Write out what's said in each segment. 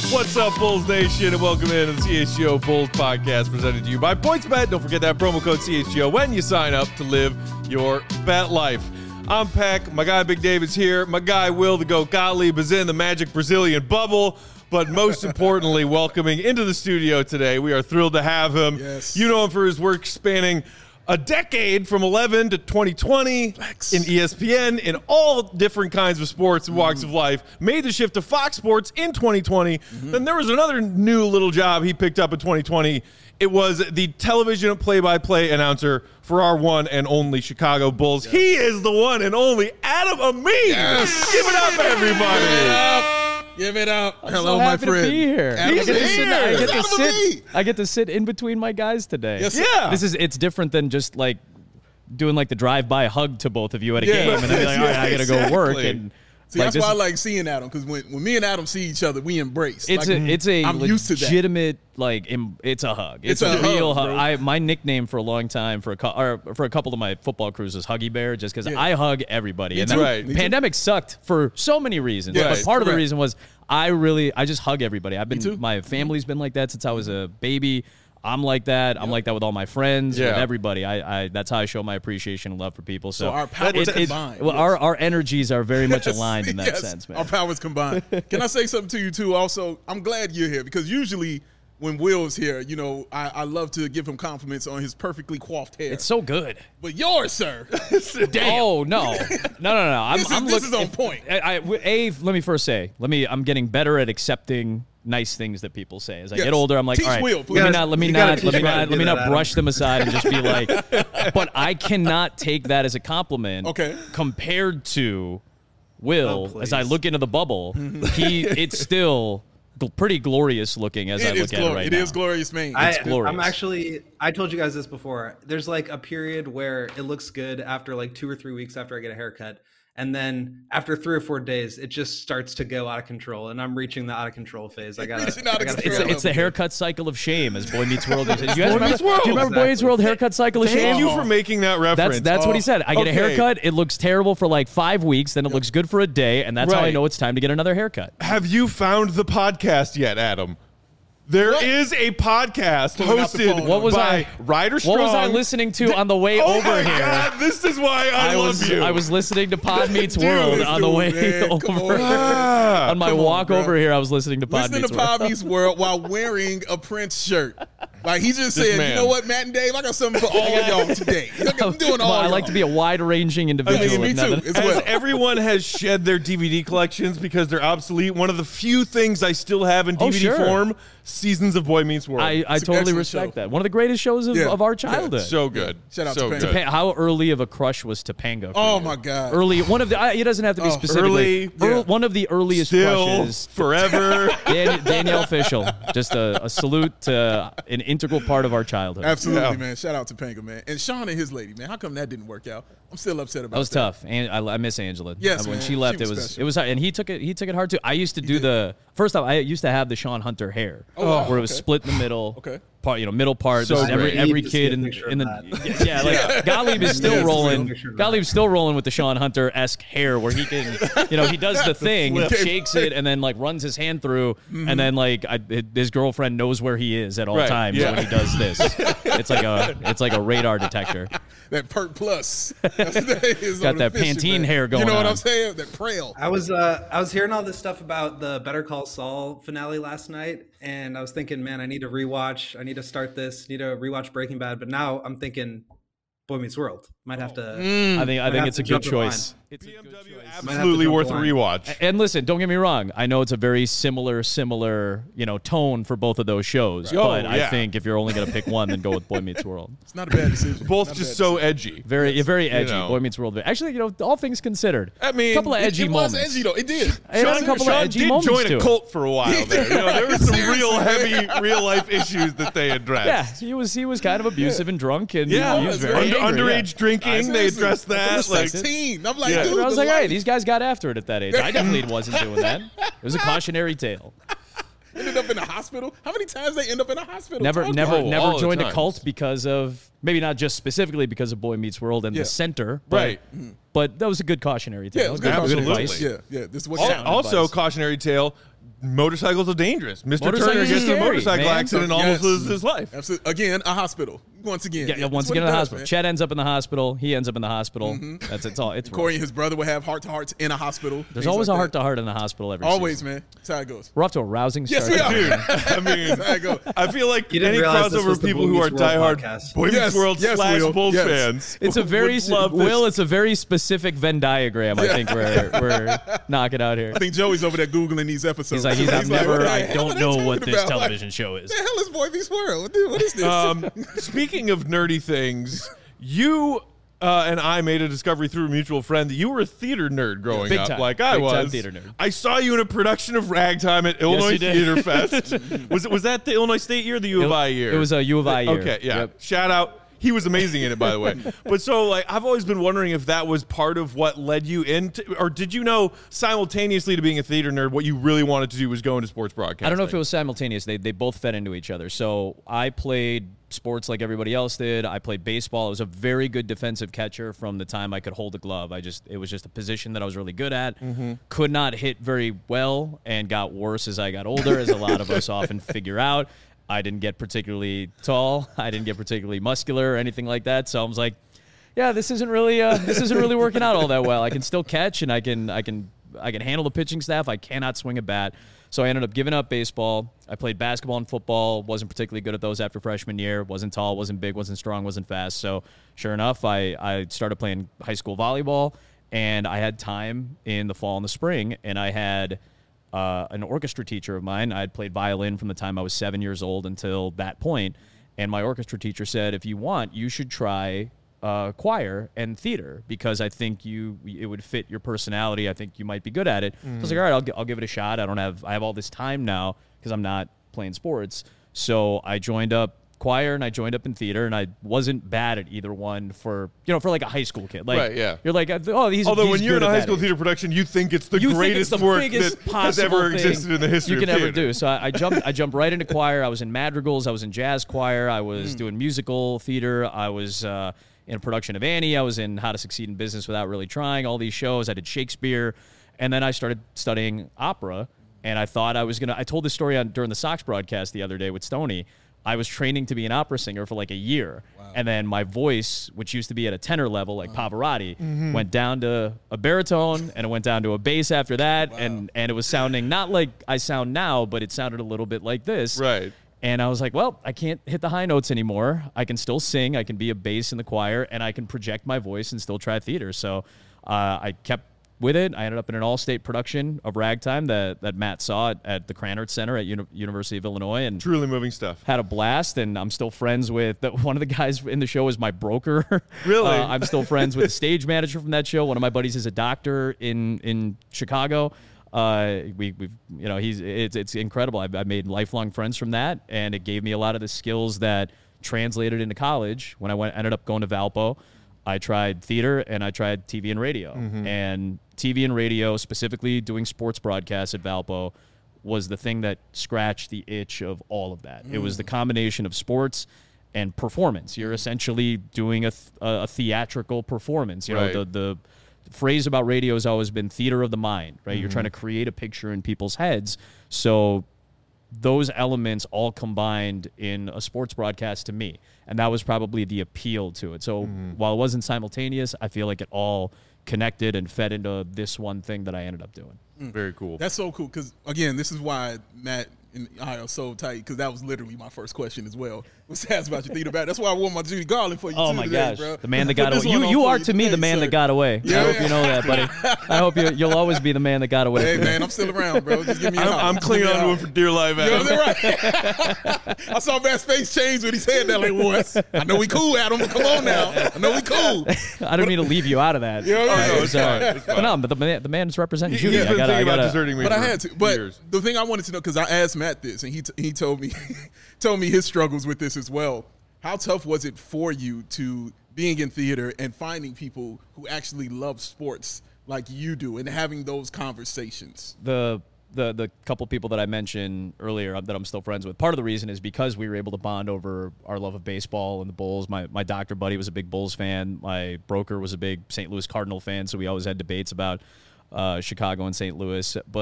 What's up, Bulls Nation, and welcome in to the CHGO Bulls podcast presented to you by PointsBet. Don't forget that promo code CHGO when you sign up to live your bet life. I'm Peck. My guy Big David's here. My guy Will the Goat Gottlieb is in the magic Brazilian bubble. But most importantly, welcoming into the studio today, we are thrilled to have him. Yes. You know him for his work spanning a decade from 11 to 2020 Flex. in ESPN in all different kinds of sports and walks of life. Made the shift to Fox Sports in 2020. Then there was another new little job he picked up in 2020. It was the television play-by-play announcer for our one and only Chicago Bulls. Yes. He is the one and only Adam Amin. Yes. Give it up, everybody. Give it up. I'm Hello, so my happy friend. to be here. I get to sit in between my guys today. Yes, yeah. It's different than just like doing like the drive-by hug to both of you at a game, and then be like, all right, I gotta go work. And see, that's why I like seeing Adam, because when me and Adam see each other, we embrace. It's a I'm used to that. legitimate it's a hug. It's a real hug. My nickname for a long time for a couple of my football crews was Huggy Bear, just because I hug everybody. Me and too. then Right. the pandemic sucked for so many reasons, but part of the reason was I just hug everybody. My family's been like that since I was a baby. I'm like that. I'm like that with all my friends, with everybody. I that's how I show my appreciation and love for people. So our powers combined. Well, our energies are very much aligned in that sense, man. Our powers combined. Can I say something to you too? Also, I'm glad you're here, because usually when Will's here, you know, I love to give him compliments on his perfectly coiffed hair. It's so good. But yours, sir. Damn. Oh no. This is on point. Let me first say, I'm getting better at accepting nice things that people say. As I get older, I'm like, Teach all right, Will, let me not brush them aside and just be like, but I cannot take that as a compliment. Okay. Compared to Will, as I look into the bubble, it's still pretty glorious looking as I look at it right now. It is glorious, man. It's glorious. I told you guys this before. There's like a period where it looks good after like 2 or 3 weeks after I get a haircut. And then after 3 or 4 days, it just starts to go out of control, and I'm reaching the out of control phase. It's the haircut cycle of shame, as Boy Meets World. Do you remember Boy Meets World haircut cycle of shame? Thank you for making that reference. That's what he said. I get a haircut, it looks terrible for like 5 weeks, then it looks good for a day, and that's how I know it's time to get another haircut. Have you found the podcast yet, Adam? There is a podcast hosted by Ryder Strong. What was I listening to on the way over here? God, this is why I love you. I was listening to Pod Meets World on the way over. On my walk over here, I was listening to Pod Meets World. Listening to Pod Meets World while wearing a Prince shirt. Like, he just said, you know what, Matt and Dave, I got something for all of y'all today. I'm doing all I like to be a wide-ranging individual. Me too. As everyone has shed their DVD collections because they're obsolete, one of the few things I still have in DVD form, seasons of Boy Meets World. I totally respect that. One of the greatest shows of our childhood. So good. Shout out to Topanga. How early of a crush was Topanga? Oh my God. Early. One of the. It doesn't have to be specifically. One of the earliest crushes. Forever. Danielle Fishel. Just a salute to an integral part of our childhood. Absolutely, man. Shout out to Topanga, man. And Sean and his lady, man. How come that didn't work out? I'm still upset about that. That was tough. And I miss Angela. Yes, when man. she left, She was it special. was hard. And he took it hard too. I used to do first off, I used to have the Sean Hunter hair, where it was split in the middle. Okay. Middle part. So every kid in the Gottlieb is still rolling. Gottlieb's still rolling with the Sean Hunter-esque hair, where he can, he does the thing, shakes it, and then like runs his hand through, and then like his girlfriend knows where he is at all times when he does this. It's like a radar detector. That Pert Plus. Got that Pantene hair going on. You know what I'm saying? That Prel. I was hearing all this stuff about the Better Call Saul finale last night, and I was thinking, man, I need to rewatch. I need to start this. Need to rewatch Breaking Bad. But now I'm thinking, Boy Meets World. Might have to. I think it's a good choice. It's BMW absolutely worth a rewatch. And listen, don't get me wrong. I know it's a very similar, tone for both of those shows. But I think if you're only going to pick one, then go with Boy Meets World. It's not a bad decision. Both just so edgy. Very edgy. Boy Meets World. Actually, all things considered. I mean, a couple of edgy moments. It was edgy, though. It did. It had a couple of edgy moments, join too. a cult for a while there. There were some real heavy, real-life issues that they addressed. Yeah, he was kind of abusive and drunk, and he was very angry, underage drinking. They addressed that. 16. I'm like, dude, I was like, hey, these guys got after it at that age. I definitely wasn't doing that. It was a cautionary tale. Ended up in the hospital. How many times they end up in a hospital? Never joined a cult because of, maybe not just specifically because of Boy Meets World and the center, but that was a good cautionary tale. Yeah, it was good Absolutely. advice. Yeah. This is what Also, cautionary tale. motorcycles are dangerous. Mr. Turner Motorcycles gets are in a scary, motorcycle man. accident and almost loses his life. Absolutely. Again, a hospital. Once again. Yeah, once again in the hospital. Chet ends up in the hospital. He ends up in the hospital. It's all. It's Corey and his brother would have heart-to-hearts in a hospital. There's always a heart-to-heart in the hospital every Always, season. man. That's how it goes. We're off to a rousing start. Yes, we are. Dude, I mean, That's how it goes. I feel like You didn't any realize this crossover was the people Boy who are Meets World diehard podcast. Boy Meets Yes, World yes, slash Will. Bulls Yes. fans. It's a very would love this. Will. It's a very specific Venn diagram. I think we're knocking out here. I think Joey's over there Googling these episodes. He's like, what I the don't hell are know they what talking this about? television show is. What the hell is Boy Meets World? Dude, what is this? Speaking of nerdy things, you and I made a discovery through a mutual friend that you were a theater nerd growing Big up, time. like I Big time was. theater nerd. I saw you in a production of Ragtime at Illinois you did. Theater Fest. Was that the Illinois State year or the U of I year? It was a U of I year. Okay, yeah. Yep. Shout out. He was amazing in it, by the way. But so, like, I've always been wondering if that was part of what led you into, or did you know simultaneously to being a theater nerd, what you really wanted to do was go into sports broadcasting? I don't know if it was simultaneous. They both fed into each other. So I played sports like everybody else did. I played baseball. I was a very good defensive catcher from the time I could hold a glove. It was just a position that I was really good at. Could not hit very well and got worse as I got older, as a lot of us often figure out. I didn't get particularly tall. I didn't get particularly muscular or anything like that. So I was like, yeah, this isn't really working out all that well. I can still catch and I can handle the pitching staff. I cannot swing a bat. So I ended up giving up baseball. I played basketball and football. Wasn't particularly good at those after freshman year. Wasn't tall, wasn't big, wasn't strong, wasn't fast. So sure enough, I started playing high school volleyball, and I had time in the fall and the spring, and I had an orchestra teacher of mine. I had played violin from the time I was 7 years old until that point, and my orchestra teacher said, if you want, you should try choir and theater, because I think it would fit your personality. I think you might be good at it. So I was like, all right, I'll give it a shot. I have all this time now because I'm not playing sports. So I joined up choir and I joined up in theater, and I wasn't bad at either one for like a high school kid. Like, right, yeah. You're like, oh, he's Although he's when you're in good a at high that school age. theater production, you think it's the You think greatest it's the work biggest that has ever possible thing existed in the history you can of ever theater. do. So I jumped right into choir. I was in madrigals. I was in jazz choir. I was doing musical theater. I was in a production of Annie. I was in How to Succeed in Business Without Really Trying. All these shows. I did Shakespeare, and then I started studying opera. And I thought I told this story during the Sox broadcast the other day with Stoney. I was training to be an opera singer for like a year. Wow. And then my voice, which used to be at a tenor level like Pavarotti, went down to a baritone, and it went down to a bass after that. Wow. And it was sounding not like I sound now, but it sounded a little bit like this. Right. And I was like, well, I can't hit the high notes anymore. I can still sing. I can be a bass in the choir, and I can project my voice and still try theater. So I kept with it. I ended up in an all-state production of Ragtime that Matt saw at the Krannert Center at University of Illinois, and Truly moving stuff. had a blast. And I'm still friends with one of the guys in the show is my broker. Really? I'm still friends with the stage manager from that show. One of my buddies is a doctor in Chicago. It's incredible. I made lifelong friends from that, and it gave me a lot of the skills that translated into college. When I ended up going to Valpo, I tried theater and I tried TV and radio. And TV and radio, specifically doing sports broadcasts at Valpo, was the thing that scratched the itch of all of that. It was the combination of sports and performance. You're essentially doing a theatrical performance. You know, Right. the phrase about radio has always been theater of the mind, right? You're trying to create a picture in people's heads. So those elements all combined in a sports broadcast to me. And that was probably the appeal to it. So while it wasn't simultaneous, I feel like it all connected and fed into this one thing that I ended up doing. Very cool. That's so cool because, again, this is why Matt and I are so tight, because that was literally my first question as well. Was asked about your theater back. That's why I wore my Judy Garland for you Oh too my today, gosh, bro. the man that Put got this away. one on You for are to me today, the man sir. that got away. Yeah, I hope yeah. you know that, buddy. I hope you'll always be the man that got away. Hey, man, I'm still around, bro. Just give me a holler. I'm Just clinging give me a on to him holler. for dear life, You know Adam. what I'm saying? Right. I saw Matt's face change when he said that. Like, what? I know we cool, Adam. Come on now. I know we cool. I don't mean to leave you out of that. Yeah, yeah, no, I'm it's sorry. fine, it's fine. But no, but the man is representing He's Judy. been thinking about deserting me But I for had to. But years. the thing I wanted to know, because I asked Matt this, and he told me told me his struggles with this as well. How tough was it for you to being in theater and finding people who actually love sports like you do and having those conversations? The couple people that I mentioned earlier that I'm still friends with, part of the reason is because we were able to bond over our love of baseball and the Bulls. My doctor buddy was a big Bulls fan. My broker was a big St. Louis Cardinal fan, so we always had debates about Chicago and St. Louis. But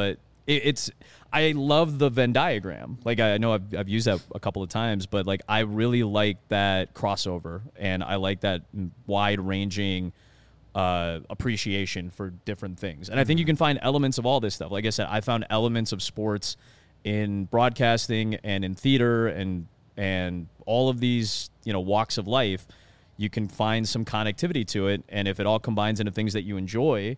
I love the Venn diagram. Like, I know I've used that a couple of times, but like, I really like that crossover, and I like that wide ranging appreciation for different things. And I think you can find elements of all this stuff. Like I said, I found elements of sports in broadcasting and in theater and all of these, walks of life. You can find some connectivity to it, and if it all combines into things that you enjoy,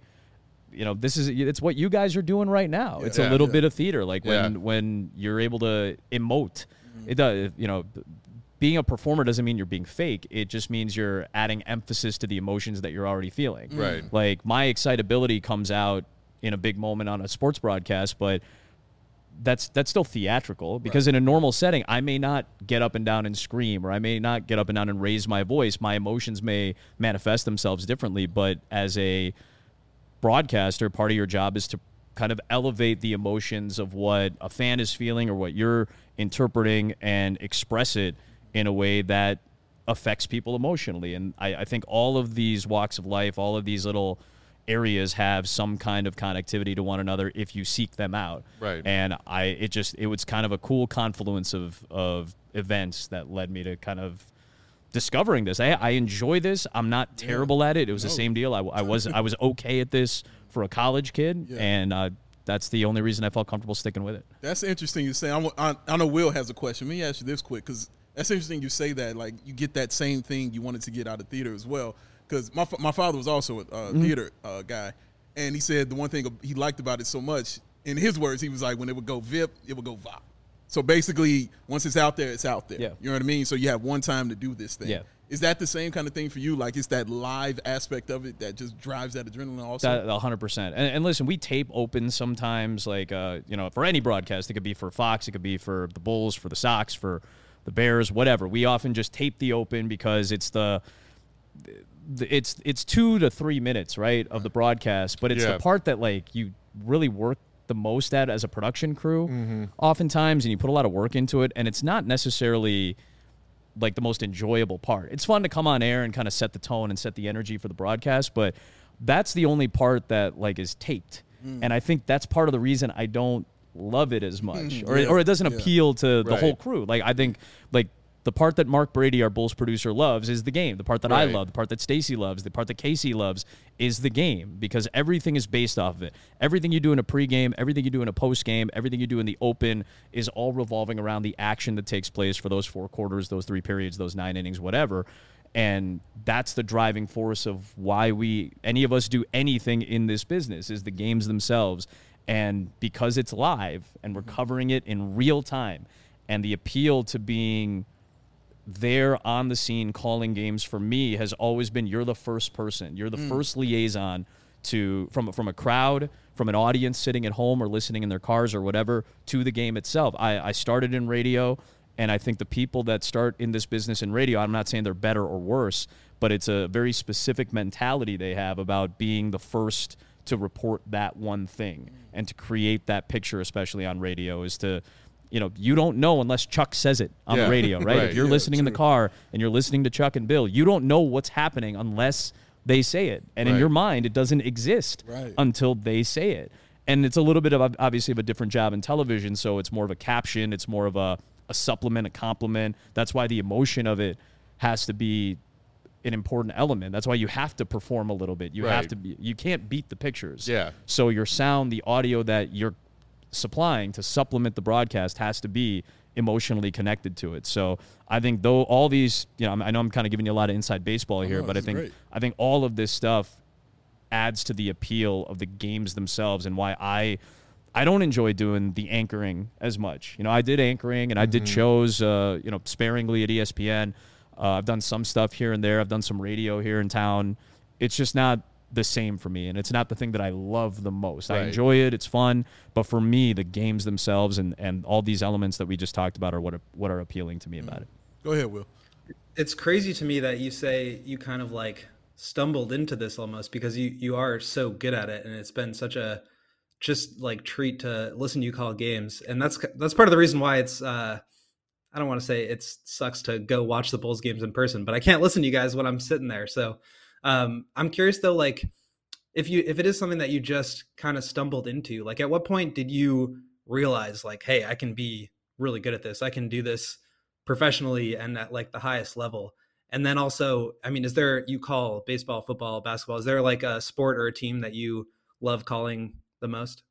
it's what you guys are doing right now. It's a little bit of theater, like when you're able to emote. It does, being a performer doesn't mean you're being fake. It just means you're adding emphasis to the emotions that you're already feeling. Right. Like, my excitability comes out in a big moment on a sports broadcast, but that's still theatrical, because in a normal setting, I may not get up and down and scream, or I may not get up and down and raise my voice. My emotions may manifest themselves differently, but as a broadcaster, part of your job is to kind of elevate the emotions of what a fan is feeling or what you're interpreting, and express it in a way that affects people emotionally. And I think all of these walks of life, all of these little areas have some kind of connectivity to one another if you seek them out. Right. And it was kind of a cool confluence of events that led me to kind of discovering this. I enjoy this. I'm not terrible at it. It was the same deal. I was okay at this for a college kid, and that's the only reason I felt comfortable sticking with it. That's interesting you say. I know Will has a question. Let me ask you this quick, because that's interesting you say that, like, you get that same thing you wanted to get out of theater as well. Because my father was also a theater guy, and he said the one thing he liked about it so much, in his words, he was like, when it would go VIP, it would go VOP. So basically, once it's out there, it's out there. Yeah. You know what I mean? So you have one time to do this thing. Yeah. Is that the same kind of thing for you? Like, it's that live aspect of it that just drives that adrenaline also? 100%. And listen, we tape open sometimes, like, for any broadcast. It could be for Fox. It could be for the Bulls, for the Sox, for the Bears, whatever. We often just tape the open because it's it's 2 to 3 minutes, right, of the broadcast. But it's the part that, like, you really work the most at as a production crew oftentimes, and you put a lot of work into it, and it's not necessarily like the most enjoyable part. It's fun to come on air and kind of set the tone and set the energy for the broadcast, but that's the only part that, like, is taped. And I think that's part of the reason I don't love it as much, or it doesn't appeal to the whole crew. Like, I think, like, the part that Mark Brady, our Bulls producer, loves is the game. The part that I love, the part that Stacy loves, the part that Casey loves is the game, because everything is based off of it. Everything you do in a pregame, everything you do in a postgame, everything you do in the open is all revolving around the action that takes place for those 4 quarters, those 3 periods, those 9 innings, whatever. And that's the driving force of why any of us do anything in this business, is the games themselves. And because it's live and we're covering it in real time, and the appeal to being there on the scene calling games, for me, has always been, you're the first person. You're the first liaison from a crowd, from an audience sitting at home or listening in their cars or whatever, to the game itself. I started in radio, and I think the people that start in this business in radio, I'm not saying they're better or worse, but it's a very specific mentality they have about being the first to report that one thing and to create that picture, especially on radio, is to, you don't know unless Chuck says it on the radio, right? If you're listening in the car and you're listening to Chuck and Bill, you don't know what's happening unless they say it. And in your mind, it doesn't exist until they say it. And it's a little bit of, obviously, of a different job in television, so it's more of a caption. It's more of a supplement, a compliment. That's why the emotion of it has to be an important element. That's why you have to perform a little bit. You have to be, you can't beat the pictures. Yeah. So your sound, the audio that you're supplying to supplement the broadcast, has to be emotionally connected to it. So I think, though, all these, I know I'm kind of giving you a lot of inside baseball here, but I think all of this stuff adds to the appeal of the games themselves, and why I don't enjoy doing the anchoring as much. I did anchoring, and I did shows, sparingly at ESPN. I've done some stuff here and there. I've done some radio here in town. It's just not the same for me, and it's not the thing that I love the most. I enjoy it. It's fun. But for me, the games themselves and all these elements that we just talked about are what are appealing to me about it. Go ahead, Will. It's crazy to me that you say you kind of like stumbled into this almost, because you are so good at it, and it's been such a just like treat to listen to you call games. And that's part of the reason why it's I don't want to say it sucks to go watch the Bulls games in person, but I can't listen to you guys when I'm sitting there. So I'm curious though, like, if it is something that you just kind of stumbled into, like at what point did you realize like, hey, I can be really good at this. I can do this professionally and at like the highest level. And then also, I mean, you call baseball, football, basketball, is there like a sport or a team that you love calling the most?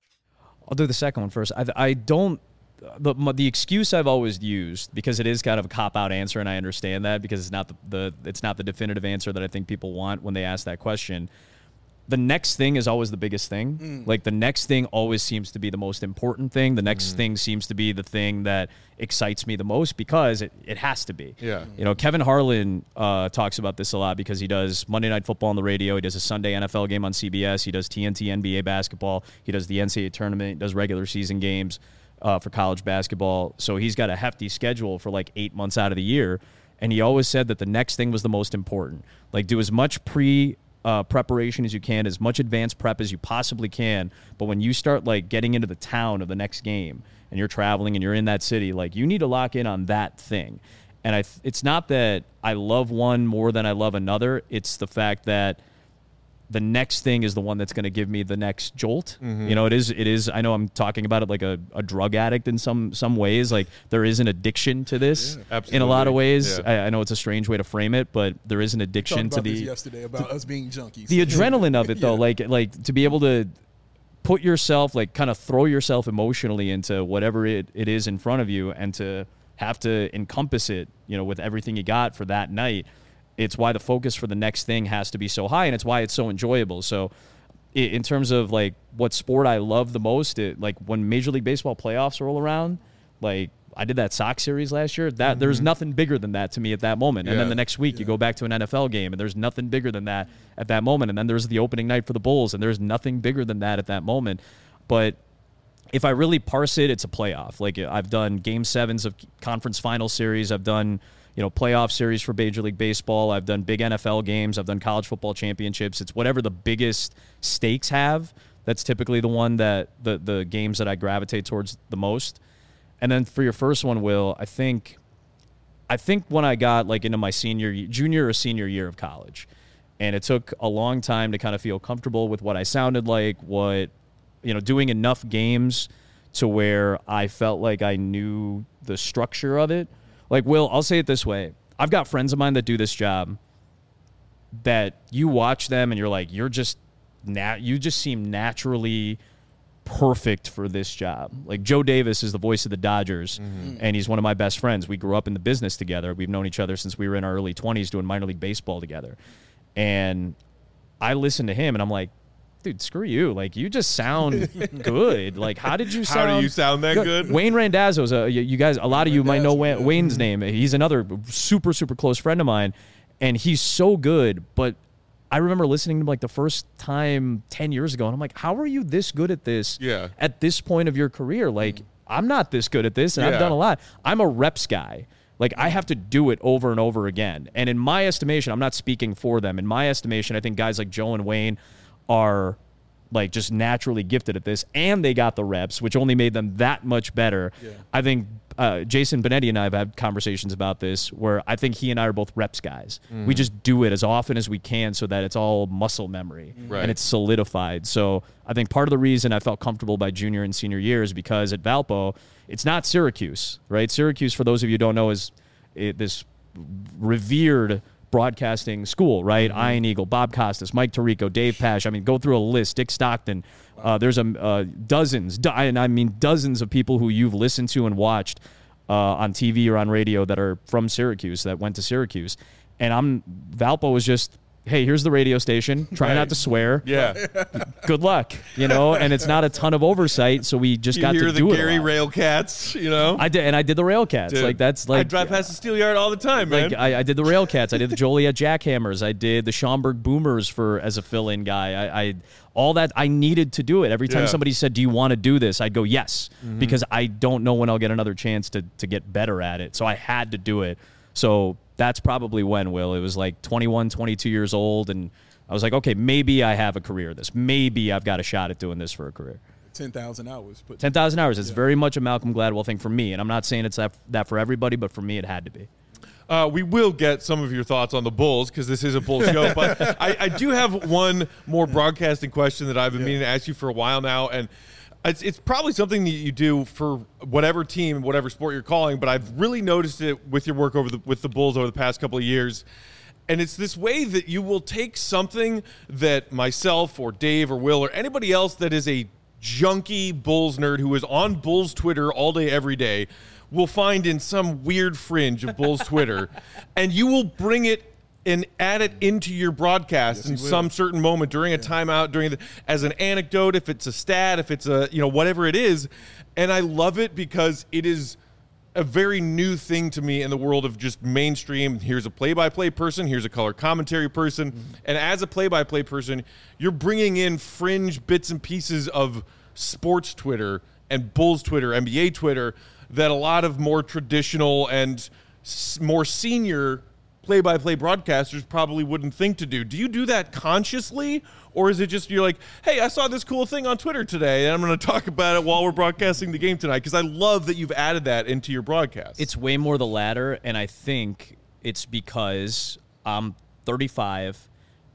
I'll do the second one first. I don't, the excuse I've always used, because it is kind of a cop-out answer, and I understand that because it's not it's not the definitive answer that I think people want when they ask that question. The next thing is always the biggest thing. Like the next thing always seems to be the most important thing. The next thing seems to be the thing that excites me the most because it has to be. Yeah. You know, Kevin Harlan talks about this a lot because he does Monday Night Football on the radio. He does a Sunday NFL game on CBS. He does TNT NBA basketball. He does the NCAA tournament. He does regular season games for college basketball. So he's got a hefty schedule for like 8 months out of the year. And he always said that the next thing was the most important. Like do as much preparation as you can, as much advanced prep as you possibly can. But when you start like getting into the town of the next game and you're traveling and you're in that city, like you need to lock in on that thing. And it's not that I love one more than I love another. It's the fact that the next thing is the one that's going to give me the next jolt. You know, it is, I know I'm talking about it like a drug addict in some ways. Like there is an addiction to this in a lot of ways. Yeah. I know it's a strange way to frame it, but there is an addiction to the yesterday about us being junkies. The adrenaline of it though, like to be able to put yourself, like kind of throw yourself emotionally into whatever it is in front of you and to have to encompass it, you know, with everything you got for that night. It's why the focus for the next thing has to be so high, and it's why it's so enjoyable. So in terms of, like, what sport I love the most, like, when Major League Baseball playoffs roll around, like, I did that Sox series last year. That there's nothing bigger than that to me at that moment. And then the next week you go back to an NFL game, and there's nothing bigger than that at that moment. And then there's the opening night for the Bulls, and there's nothing bigger than that at that moment. But if I really parse it, it's a playoff. Like, I've done Game 7s of conference final series. I've done, you know, playoff series for Major League Baseball. I've done big NFL games. I've done college football championships. It's whatever the biggest stakes have. That's typically the one that the games that I gravitate towards the most. And then for your first one, Will, I think when I got like into my junior or senior year of college, and it took a long time to kind of feel comfortable with what I sounded like, doing enough games to where I felt like I knew the structure of it. Like, Will, I'll say it this way. I've got friends of mine that do this job that you watch them and you're like, you just seem naturally perfect for this job. Like, Joe Davis is the voice of the Dodgers, and he's one of my best friends. We grew up in the business together. We've known each other since we were in our early 20s doing minor league baseball together. And I listen to him, and I'm like, dude, screw you. Like, you just sound good. Like, how did you sound? How do you sound that good? Wayne Randazzo's, you guys, a lot of you might know Wayne's name. He's another super, super close friend of mine, and he's so good. But I remember listening to him like the first time 10 years ago, and I'm like, how are you this good at this at this point of your career? Like, I'm not this good at this, and I've done a lot. I'm a reps guy. Like, I have to do it over and over again. And in my estimation, I'm not speaking for them. In my estimation, I think guys like Joe and Wayne are like just naturally gifted at this, and they got the reps, which only made them that much better. I think Jason Benetti and I have had conversations about this where I think he and I are both reps guys. We just do it as often as we can so that it's all muscle memory and it's solidified. So I think part of the reason I felt comfortable by junior and senior year is because at Valpo, it's not Syracuse, right? Syracuse, for those of you who don't know, is this revered broadcasting school, right? Iron Eagle, Bob Costas, Mike Tirico, Dave Pasch. I mean, go through a list. Dick Stockton. There's dozens of people who you've listened to and watched on TV or on radio that are from Syracuse, that went to Syracuse. And Valpo was just, hey, here's the radio station. Try not to swear. Good luck, and it's not a ton of oversight, so we just got to do it. You hear the Gary Railcats, I did the Railcats. Dude, like, that's like, I drive past the Steel Yard all the time, man. Like, I did the Railcats. I did the Joliet Jackhammers. I did the Schaumburg Boomers as a fill-in guy. I all that, I needed to do it. Every time somebody said, do you want to do this? I'd go, yes, because I don't know when I'll get another chance to get better at it. So I had to do it. So that's probably when, Will. It was like 21, 22 years old, and I was like, okay, maybe I have a career at this. Maybe I've got a shot at doing this for a career. 10,000 hours. 10,000 hours. It's very much a Malcolm Gladwell thing for me, and I'm not saying it's that for everybody, but for me it had to be. We will get some of your thoughts on the Bulls because this is a Bulls show. But I do have one more broadcasting question that I've been meaning to ask you for a while now. And it's probably something that you do for whatever team, whatever sport you're calling. But I've really noticed it with your work with the Bulls over the past couple of years. And it's this way that you will take something that myself or Dave or Will or anybody else that is a junkie Bulls nerd who is on Bulls Twitter all day, every day, will find in some weird fringe of Bulls Twitter, and you will bring it and add it into your broadcast in some certain moment during a timeout, as an anecdote, if it's a stat, if it's a, whatever it is. And I love it because it is a very new thing to me in the world of just mainstream. Here's a play-by-play person. Here's a color commentary person. Mm-hmm. And as a play-by-play person, you're bringing in fringe bits and pieces of sports Twitter and Bulls Twitter, NBA Twitter, that a lot of more traditional and more senior play-by-play broadcasters probably wouldn't think to do. Do you do that consciously, or is it just you're like, hey, I saw this cool thing on Twitter today, and I'm going to talk about it while we're broadcasting the game tonight? Because I love that you've added that into your broadcast. It's way more the latter, and I think it's because I'm 35.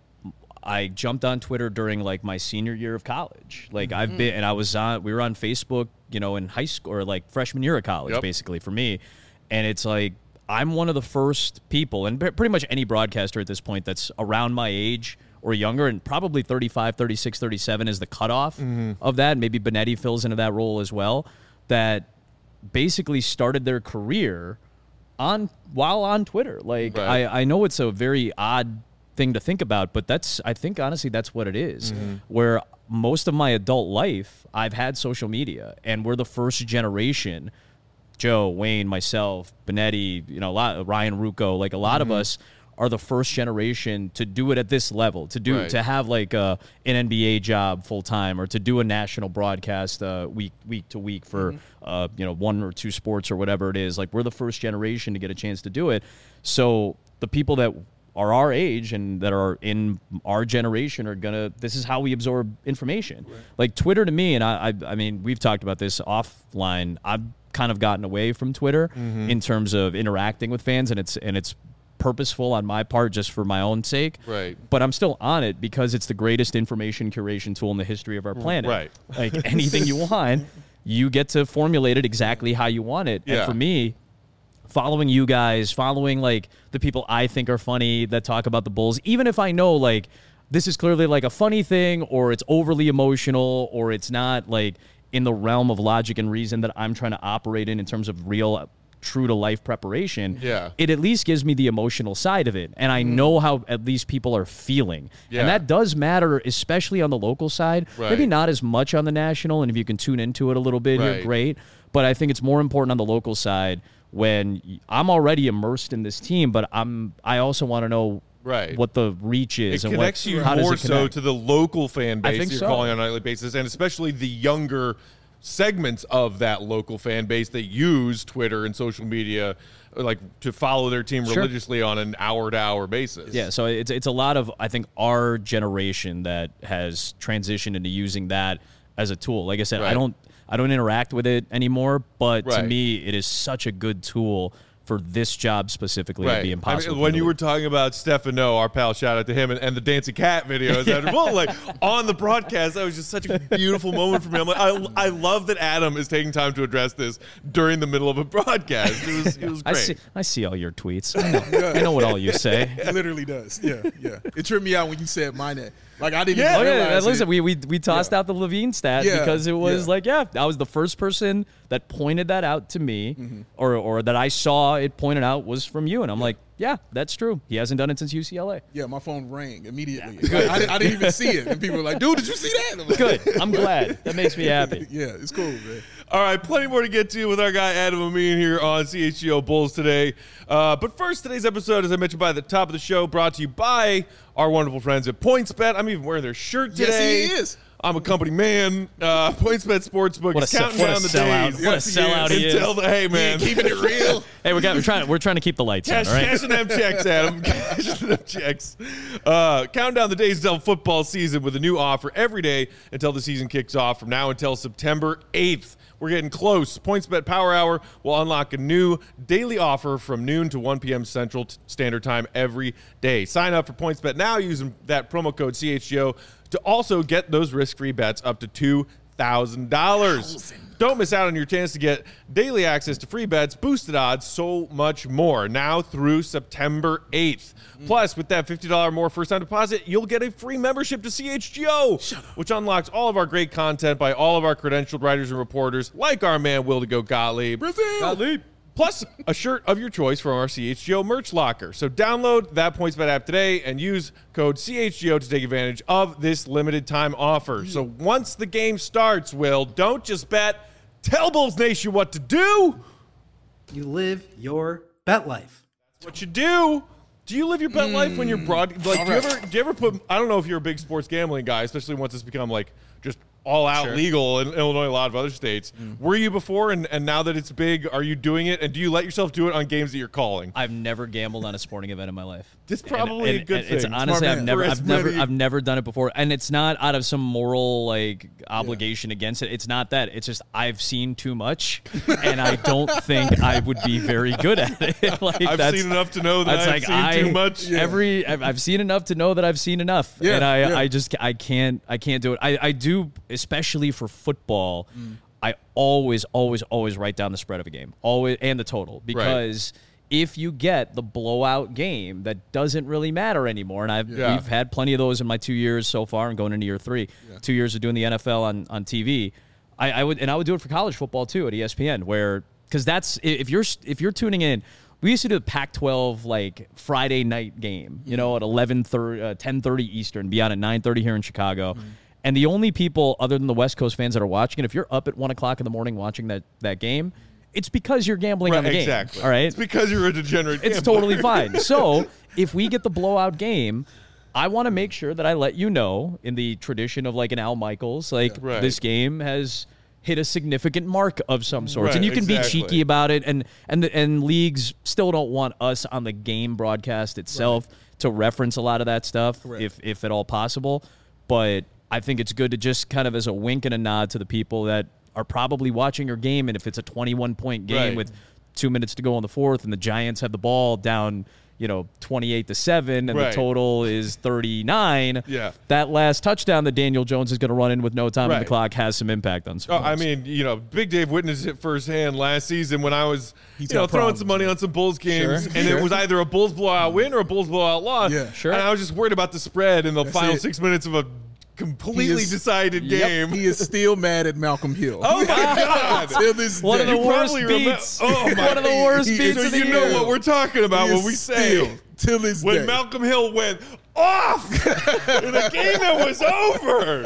I jumped on Twitter during like my senior year of college. Like I've been, and we were on Facebook, in high school or like freshman year of college, basically for me. And it's like, I'm one of the first people, and pretty much any broadcaster at this point that's around my age or younger, and probably 35, 36, 37 is the cutoff of that. Maybe Benetti fills into that role as well, that basically started their career while on Twitter. Like I know it's a very odd thing to think about, but I think honestly that's what it is. Where most of my adult life I've had social media, and we're the first generation. Joe, Wayne, myself, Benetti, Ryan Rucco, like a lot of us are the first generation to do it at this level, to have like an NBA job full time, or to do a national broadcast week to week for one or two sports or whatever it is. Like we're the first generation to get a chance to do it. So the people that are our age and that are in our generation this is how we absorb information. Right. Like Twitter to me, and I mean, we've talked about this offline, I've kind of gotten away from Twitter in terms of interacting with fans, and it's purposeful on my part just for my own sake. Right. But I'm still on it because it's the greatest information curation tool in the history of our planet. Right. Like anything you want, you get to formulate it exactly how you want it. Yeah. And for me, following you guys, following like the people I think are funny that talk about the Bulls, even if I know like this is clearly like a funny thing, or it's overly emotional, or it's not like in the realm of logic and reason that I'm trying to operate in terms of real, true to life preparation, it at least gives me the emotional side of it. And I know how at least people are feeling. Yeah. And that does matter, especially on the local side. Right. Maybe not as much on the national. And if you can tune into it a little bit, you're great. But I think it's more important on the local side when I'm already immersed in this team, but I also want to know what the reach is. It connects you more so to the local fan base you're calling on a nightly basis, and especially the younger segments of that local fan base that use Twitter and social media like to follow their team religiously on an hour-to-hour basis. Yeah, so it's a lot of, I think, our generation that has transitioned into using that as a tool. Like I said, I don't interact with it anymore, but to me, it is such a good tool for this job specifically to be impossible. I mean, when you were talking about Stefano, our pal, shout out to him, and the dancing cat videos, like on the broadcast, that was just such a beautiful moment for me. I'm like, I love that Adam is taking time to address this during the middle of a broadcast. It was great. I see all your tweets. I know what all you say. It literally does. Yeah. It tripped me out when you said my name. Like I didn't even realize listen, we tossed out the Levine stat because it was I was the first person that pointed that out to me, or that I saw it pointed out was from you, and I'm like, yeah, that's true. He hasn't done it since UCLA. Yeah, my phone rang immediately. I didn't even see it, and people were like, dude, did you see that? I'm like, good. I'm glad. That makes me happy. Yeah, it's cool, man. All right, plenty more to get to with our guy Adam Amin here on CHGO Bulls today. But first, today's episode, as I mentioned by the top of the show, brought to you by our wonderful friends at PointsBet. I'm even wearing their shirt today. Yes, he is. I'm a company man. PointsBet Sportsbook is counting down the days. What a sellout he is. Hey, man. Keeping it real. Hey, we're trying to keep the lights on, all right? Cashing them checks, Adam. Cashing them checks. Counting down the days until football season with a new offer every day until the season kicks off from now until September 8th. We're getting close. PointsBet Power Hour will unlock a new daily offer from noon to 1 p.m. Central Standard Time every day. Sign up for PointsBet now using that promo code CHGO to also get those risk-free bets up to $2,000. Don't miss out on your chance to get daily access to free bets, boosted odds, so much more now through September 8th. Plus, with that $50 more first-time deposit, you'll get a free membership to CHGO, which unlocks all of our great content by all of our credentialed writers and reporters, like our man Will to Go Gottlieb. Brazil! Plus, a shirt of your choice from our CHGO merch locker. So download that PointsBet app today and use code CHGO to take advantage of this limited time offer. So once the game starts, Will, don't just bet. Tell Bulls Nation what to do. You live your bet life. That's what you do. Do you live your bet life when you're broad? Like, do you ever put? I don't know if you're a big sports gambling guy, especially once it's become like just all out legal in Illinois, a lot of other states. Were you before, and now that it's big, are you doing it? And do you let yourself do it on games that you're calling? I've never gambled on a sporting event in my life. That's probably a good thing. It's honestly, I've never done it before, and it's not out of some moral like obligation against it. It's not that. It's just I've seen too much, and I don't think I would be very good at it. Like, I've seen enough to know that I've seen too much. I've seen enough to know that I've seen enough, and I can't do it. I do, especially for football. I always write down the spread of a game, always, and the total, because if you get the blowout game that doesn't really matter anymore, and we've had plenty of those in my 2 years so far, and going into year 3, 2 years of doing the NFL on TV. I would do it for college football too at ESPN, because that's if you're tuning in. We used to do the Pac-12 like Friday night game, at 10:30 Eastern, be on at 9:30 here in Chicago. And the only people other than the West Coast fans that are watching it, if you're up at 1 o'clock in the morning watching that game, it's because you're gambling on the game. Exactly. All right? It's because you're a degenerate gambler. It's totally fine. So if we get the blowout game, I want to make sure that I let you know, in the tradition of like an Al Michaels, this game has hit a significant mark of some sort. And you can be cheeky about it, and leagues still don't want us on the game broadcast itself to reference a lot of that stuff, if at all possible. But I think it's good to just kind of as a wink and a nod to the people that are probably watching your game, and if it's a 21-point game with 2 minutes to go in the fourth and the Giants have the ball down 28-7 and the total is 39, that last touchdown that Daniel Jones is going to run in with no time on the clock has some impact on some I mean, Big Dave witnessed it firsthand last season when I was throwing some money on some Bulls games, and it was either a Bulls blowout win or a Bulls blowout loss. And I was just worried about the spread in the final 6 minutes of a completely decided game. He is still mad at Malcolm Hill. Oh my God! One of the worst beats. One of the worst beats of the year. You know what we're talking about when we say till this day. When Malcolm Hill went off in a game that was over.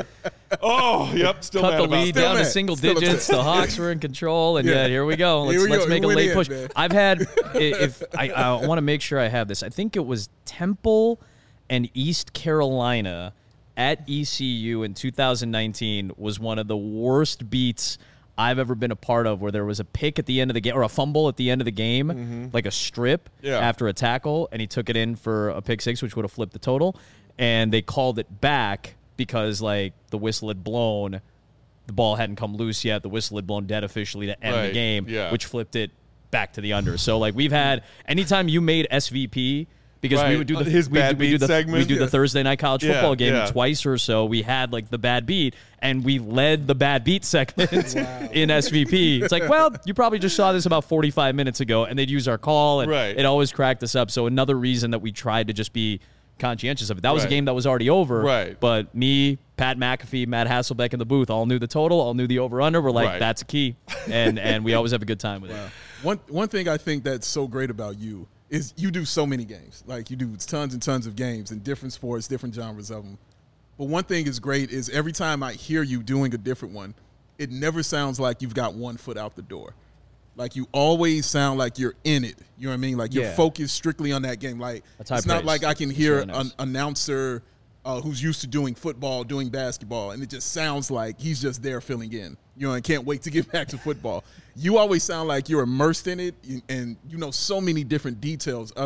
Oh, yep. Still cut mad the about lead that. down to single digits. The Hawks were in control, and here we go. Let's make a late push. Man. I've had. If I want to make sure I have this. I think it was Temple and East Carolina at ECU in 2019 was one of the worst beats I've ever been a part of, where there was a pick at the end of the game, or a fumble at the end of the game, like a strip after a tackle, and he took it in for a pick six, which would have flipped the total, and they called it back because like the whistle had blown, the ball hadn't come loose yet, the whistle had blown dead officially to end the game, which flipped it back to the under. So like we've had, anytime you made SVP, because we would do the segment. We do the Thursday night college football game twice or so. We had like the bad beat, and we led the bad beat segment in SVP. It's like, well, you probably just saw this about 45 minutes ago, and they'd use our call, and it always cracked us up. So another reason that we tried to just be conscientious of it. That was a game that was already over, but me, Pat McAfee, Matt Hasselbeck in the booth all knew the total, all knew the over-under. We're like, that's a key, and we always have a good time with it. One thing I think that's so great about you is you do so many games. Like, you do tons and tons of games in different sports, different genres of them. But one thing is great is every time I hear you doing a different one, it never sounds like you've got one foot out the door. Like, you always sound like you're in it. You know what I mean? Like, you're focused strictly on that game. Like, it's not like I can hear an announcer who's used to doing football, doing basketball, and it just sounds like he's just there filling in, and can't wait to get back to football. You always sound like you're immersed in it, and you know so many different details of it.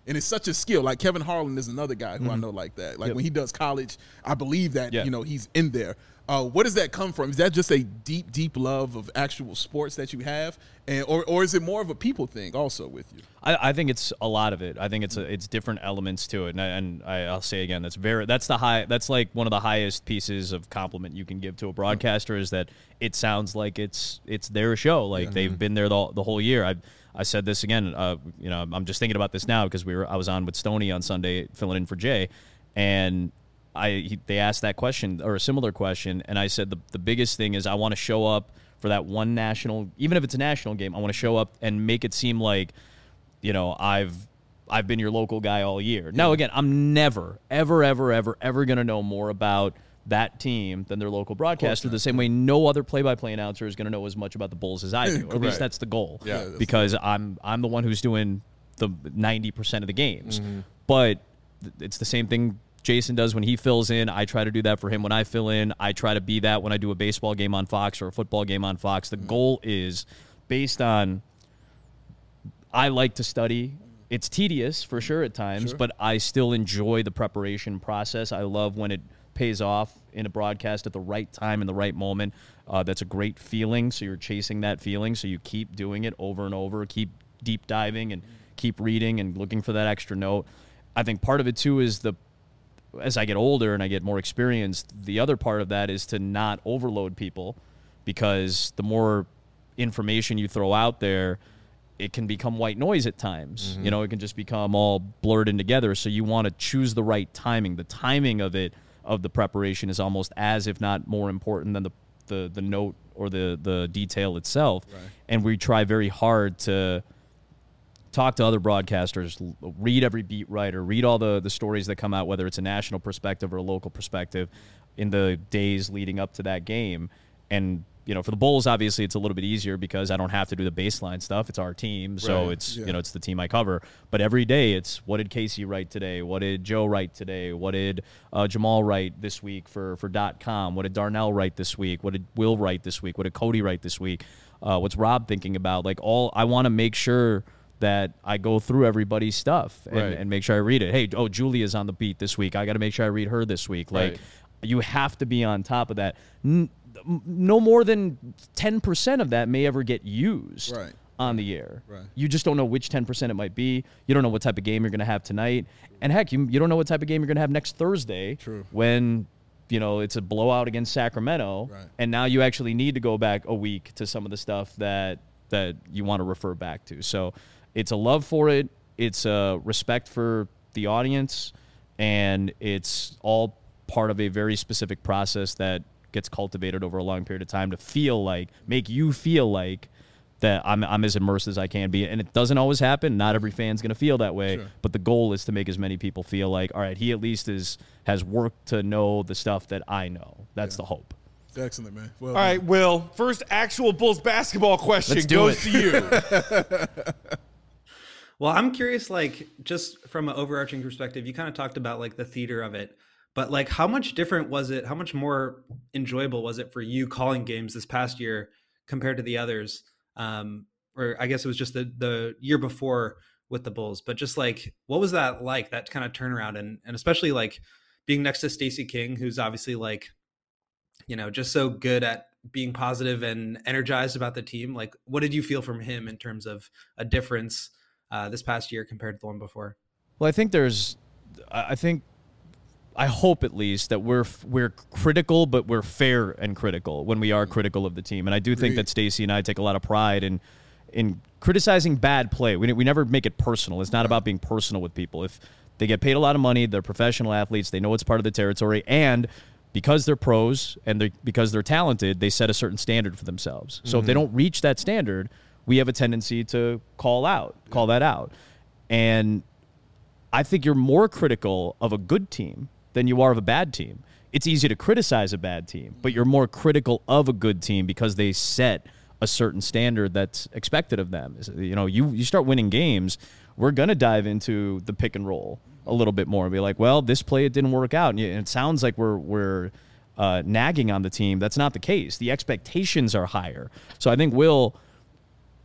And it's such a skill. Like Kevin Harlan is another guy who I know like that. Like when he does college, I believe that, he's in there. Where does that come from? Is that just a deep, deep love of actual sports that you have? Or is it more of a people thing also with you? I think it's a lot of it. I think it's different elements to it. And I'll say again, that's like one of the highest pieces of compliment you can give to a broadcaster is that it sounds like it's their show. Like they've been there the whole year. I said this again, I'm just thinking about this now because I was on with Stoney on Sunday filling in for Jay, and they asked that question or a similar question, and I said the biggest thing is I want to show up for that one national, even if it's a national game, I want to show up and make it seem like, I've been your local guy all year. Now, again, I'm never, ever, ever, ever, ever going to know more about that team than their local broadcaster, the same way no other play-by-play announcer is going to know as much about the Bulls as I do. Or at least that's the goal. Yeah, because I'm the one who's doing the 90% of the games. But it's the same thing Jason does when he fills in. I try to do that for him when I fill in. I try to be that when I do a baseball game on Fox or a football game on Fox. The goal is based on I like to study. It's tedious for sure at times, but I still enjoy the preparation process. I love when it pays off in a broadcast at the right time in the right moment. That's a great feeling, so you're chasing that feeling, so you keep doing it over and over, keep deep diving and keep reading and looking for that extra note. I think part of it too is as I get older and I get more experienced, the other part of that is to not overload people, because the more information you throw out there, it can become white noise at times. It can just become all blurred in together, so you want to choose the right timing. The timing of the preparation is almost as if not more important than the note or the detail itself. Right. And we try very hard to talk to other broadcasters, read every beat writer, read all the stories that come out, whether it's a national perspective or a local perspective, in the days leading up to that game. And for the Bulls, obviously it's a little bit easier because I don't have to do the baseline stuff. It's our team, so it's it's the team I cover. But every day it's, what did Casey write today? What did Joe write today? What did Jamal write this week for .com? What did Darnell write this week? What did Will write this week? What did Cody write this week? What's Rob thinking about? I want to make sure that I go through everybody's stuff and make sure I read it. Hey, Julia's on the beat this week. I got to make sure I read her this week. You have to be on top of that. No more than 10% of that may ever get used on the air. Right. You just don't know which 10% it might be. You don't know what type of game you're going to have tonight. And heck, you don't know what type of game you're going to have next Thursday. True. When it's a blowout against Sacramento. Right. And now you actually need to go back a week to some of the stuff that you want to refer back to. So it's a love for it. It's a respect for the audience. And it's all part of a very specific process that gets cultivated over a long period of time to make you feel like that I'm as immersed as I can be. And it doesn't always happen. Not every fan's going to feel that way. Sure. But the goal is to make as many people feel like, all right, he at least has worked to know the stuff that I know. That's the hope. Excellent, man. Well, all right, Will, first actual Bulls basketball question goes to you. Well, I'm curious, just from an overarching perspective, you kind of talked about the theater of it. But how much different was it? How much more enjoyable was it for you calling games this past year compared to the others? Or I guess it was just the year before with the Bulls. But just what was that like? That kind of turnaround, and especially being next to Stacey King, who's obviously just so good at being positive and energized about the team. What did you feel from him in terms of a difference this past year compared to the one before? Well, I hope at least that we're critical, but we're fair and critical when we are critical of the team. And I do think that Stacey and I take a lot of pride in criticizing bad play. We never make it personal. It's not about being personal with people. If they get paid a lot of money, they're professional athletes, they know it's part of the territory, and because they're pros and because they're talented, they set a certain standard for themselves. So if they don't reach that standard, we have a tendency to call that out. And I think you're more critical of a good team than you are of a bad team. It's easy to criticize a bad team, but you're more critical of a good team because they set a certain standard that's expected of them. You start winning games, we're going to dive into the pick and roll a little bit more and be like, well, this play, it didn't work out. And it sounds like we're nagging on the team. That's not the case. The expectations are higher. So I think Will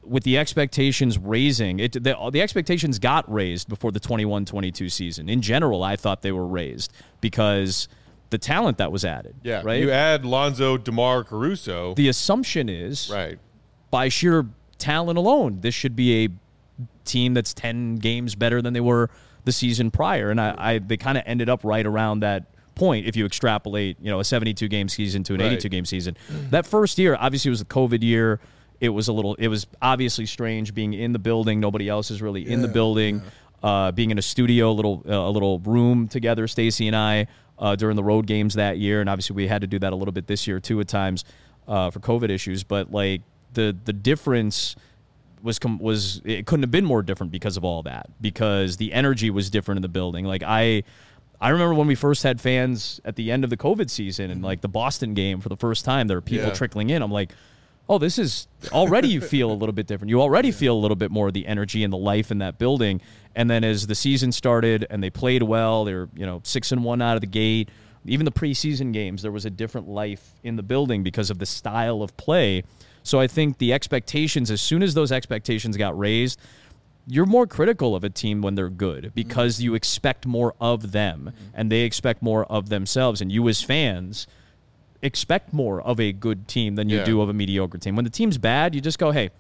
with the expectations raising, the expectations got raised before the 21-22 season. In general, I thought they were raised because the talent that was added. Yeah, right? You add Lonzo, DeMar, Caruso. The assumption is, right, by sheer talent alone, this should be a team that's 10 games better than they were the season prior. And they kind of ended up right around that point if you extrapolate, a 72-game season to an 82-game season. That first year, obviously, was the COVID year. It was obviously strange being in the building. Nobody else is really in the building. Being in a studio, a little room together, Stacey and I, during the road games that year. And obviously we had to do that a little bit this year too at times for COVID issues. But like the difference was it couldn't have been more different because of all that, because the energy was different in the building. Like I remember when we first had fans at the end of the COVID season and like the Boston game for the first time, there were people trickling in. I'm like, oh, this is already, you feel a little bit different. You already feel a little bit more of the energy and the life in that building. And then as the season started and they played well, they were 6-1 out of the gate. Even the preseason games, there was a different life in the building because of the style of play. So I think the expectations, as soon as those expectations got raised, you're more critical of a team when they're good because you expect more of them and they expect more of themselves. And you as fans expect more of a good team than you do of a mediocre team. When the team's bad, you just go, hey,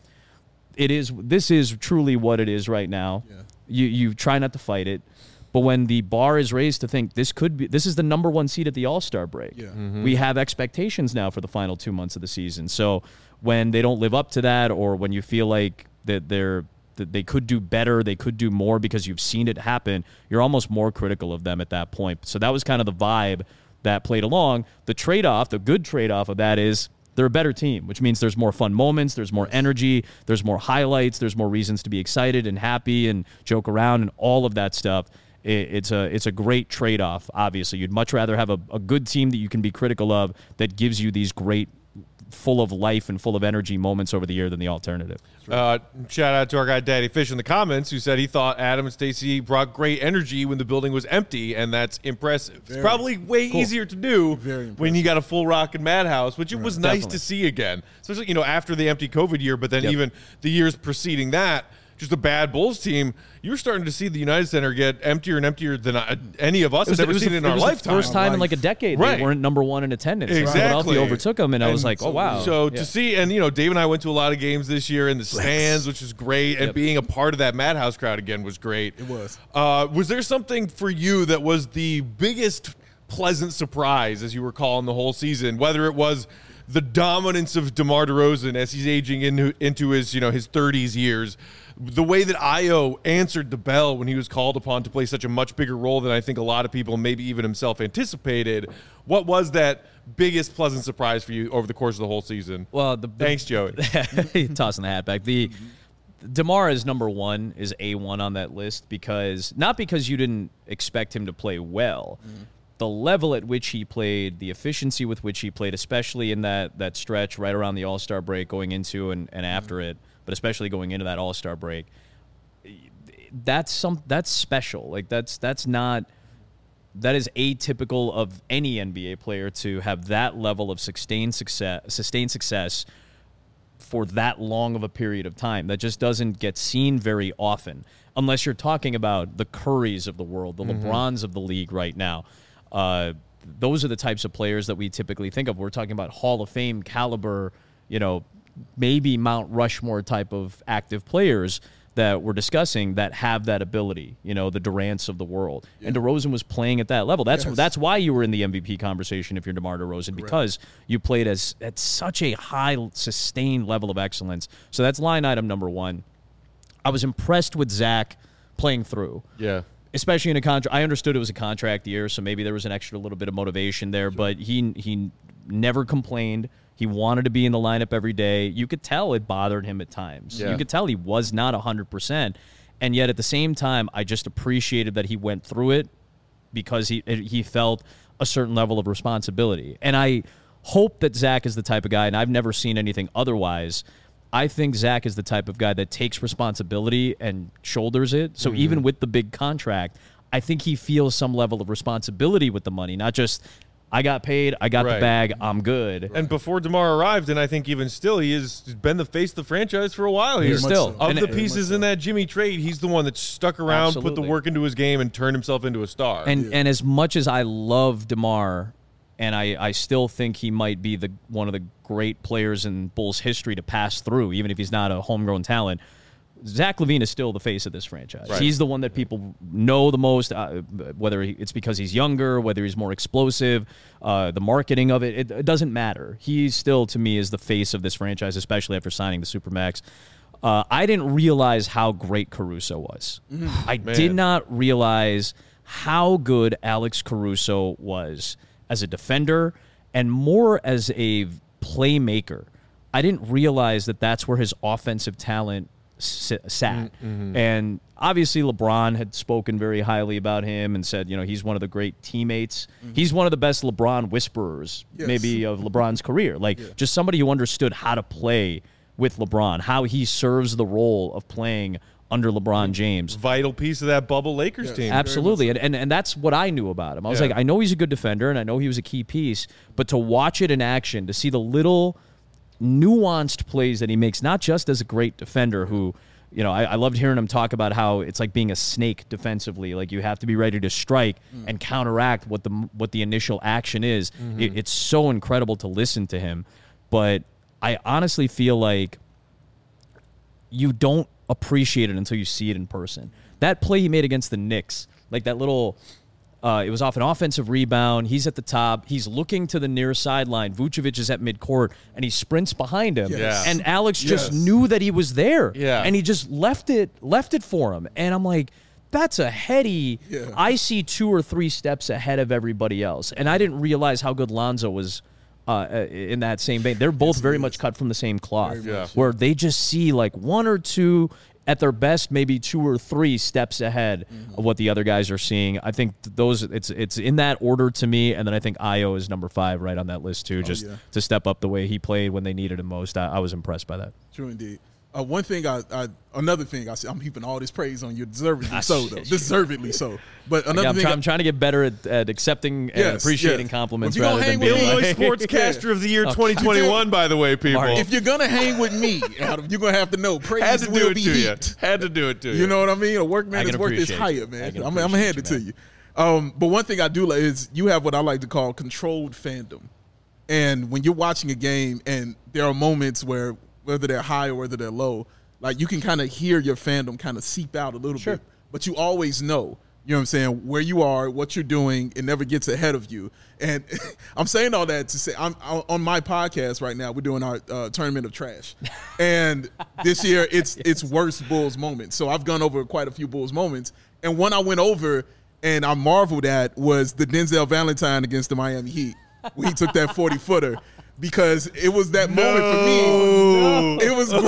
this is truly what it is right now. You try not to fight it. But when the bar is raised to think this is the number one seed at the All-Star break, we have expectations now for the final 2 months of the season. So when they don't live up to that, or when you feel like that they could do better, they could do more because you've seen it happen, you're almost more critical of them at that point. So that was kind of the vibe that played along. The good trade-off of that is they're a better team, which means there's more fun moments, there's more energy, there's more highlights, there's more reasons to be excited and happy and joke around and all of that stuff. It's a great trade-off, obviously. You'd much rather have a good team that you can be critical of that gives you these great, full of life and full of energy moments over the year than the alternative. Shout out to our guy Daddy Fish in the comments who said he thought Adam and Stacey brought great energy when the building was empty, and that's impressive. It's probably way easier to do when you got a full Rockin' Madhouse, which it was nice to see again, especially after the empty COVID year, but then even the years preceding that. Just a bad Bulls team, you were starting to see the United Center get emptier and emptier than any of us had ever seen in our lifetime. First time in like a decade they weren't number one in attendance. Exactly. Philadelphia overtook them, and I was like, oh, wow. So to see, and Dave and I went to a lot of games this year in the stands, which is great, and being a part of that Madhouse crowd again was great. It was. Was there something for you that was the biggest pleasant surprise as you were calling the whole season, whether it was the dominance of DeMar DeRozan as he's aging into his his 30s years, the way that Ayo answered the bell when he was called upon to play such a much bigger role than I think a lot of people, maybe even himself, anticipated. What was that biggest pleasant surprise for you over the course of the whole season? Well, thanks, Joey. Tossing the hat back. DeMar is number one, is A1 on that list not because you didn't expect him to play well. The level at which he played, the efficiency with which he played, especially in that stretch right around the All-Star break going into and after it, but especially going into that All-Star break, that's special. Like that is atypical of any NBA player to have that level of sustained success for that long of a period of time. That just doesn't get seen very often, unless you're talking about the Currys of the world, the LeBrons of the league right now. Those are the types of players that we typically think of. We're talking about Hall of Fame caliber, maybe Mount Rushmore type of active players that we're discussing that have that ability, the Durants of the world. And DeRozan was playing at that level. That's why you were in the MVP conversation if you're DeMar DeRozan, because you played at such a high, sustained level of excellence. So that's line item number one. I was impressed with Zach playing through. Yeah. Especially in a contract. I understood it was a contract year, so maybe there was an extra little bit of motivation there, but he never complained. He wanted to be in the lineup every day. You could tell it bothered him at times. You could tell he was not 100%. And yet at the same time, I just appreciated that he went through it because he felt a certain level of responsibility. And I hope that Zach is the type of guy, and I've never seen anything otherwise. I think Zach is the type of guy that takes responsibility and shoulders it. So even with the big contract, I think he feels some level of responsibility with the money, not just I got paid. I got the bag. I'm good. And before DeMar arrived, and I think even still, he has been the face of the franchise for a while here. Still. Of the pieces in that Jimmy trade, he's the one that stuck around, put the work into his game, and turned himself into a star. And as much as I love DeMar, and I still think he might be one of the great players in Bulls history to pass through, even if he's not a homegrown talent, Zach LaVine is still the face of this franchise. Right. He's the one that people know the most, whether it's because he's younger, whether he's more explosive, the marketing of it, it doesn't matter. He still, to me, is the face of this franchise, especially after signing the Supermax. I didn't realize how great Caruso was. I did not realize how good Alex Caruso was as a defender and more as a playmaker. I didn't realize that that's where his offensive talent sat. And obviously LeBron had spoken very highly about him and said, he's one of the great teammates. He's one of the best LeBron whisperers, maybe, of LeBron's career. Just somebody who understood how to play with LeBron, how he serves the role of playing under LeBron James. Vital piece of that bubble Lakers team. Absolutely. And that's what I knew about him. I was like, I know he's a good defender and I know he was a key piece, but to watch it in action, to see the little nuanced plays that he makes, not just as a great defender who, I loved hearing him talk about how it's like being a snake defensively. Like, you have to be ready to strike and counteract what the initial action is. It's so incredible to listen to him. But I honestly feel like you don't appreciate it until you see it in person. That play he made against the Knicks, like that little... it was off an offensive rebound. He's at the top. He's looking to the near sideline. Vucevic is at midcourt, and he sprints behind him. Yes. And Alex just knew that he was there. Yeah. And he just left it for him. And I'm like, that's a heady. Yeah. I see 2 or 3 steps ahead of everybody else. And I didn't realize how good Lonzo was in that same vein. They're both very much cut from the same cloth, where they just see like 1 or 2. At their best, maybe 2 or 3 steps ahead of what the other guys are seeing. I think it's in that order to me, and then I think Ayo is number 5 right on that list too, to step up the way he played when they needed him most. I was impressed by that. True indeed. Another thing I see, I'm heaping all this praise on you, deservedly so, though. Deservedly so. But another thing, I'm trying to get better at accepting and appreciating compliments rather than being Illinois Sportscaster of the year 2021. By the way, people, if you're gonna hang with me, Adam, you're gonna have to know praise will be heaped. Had to do it to you. You know what I mean? A workman is worth his hire, man. I'm gonna hand it to you. But one thing I do like is you have what I like to call controlled fandom. And when you're watching a game and there are moments where, whether they're high or whether they're low, like you can kind of hear your fandom kind of seep out a little bit, but you always know, you know what I'm saying, where you are, what you're doing. It never gets ahead of you. And I'm saying all that to say, I'm on my podcast right now. We're doing our tournament of trash, and this year it's worst Bulls moments. So I've gone over quite a few Bulls moments, and one I went over and I marveled at was the Denzel Valentine against the Miami Heat, where he took that 40-footer. Because it was that moment for me. It was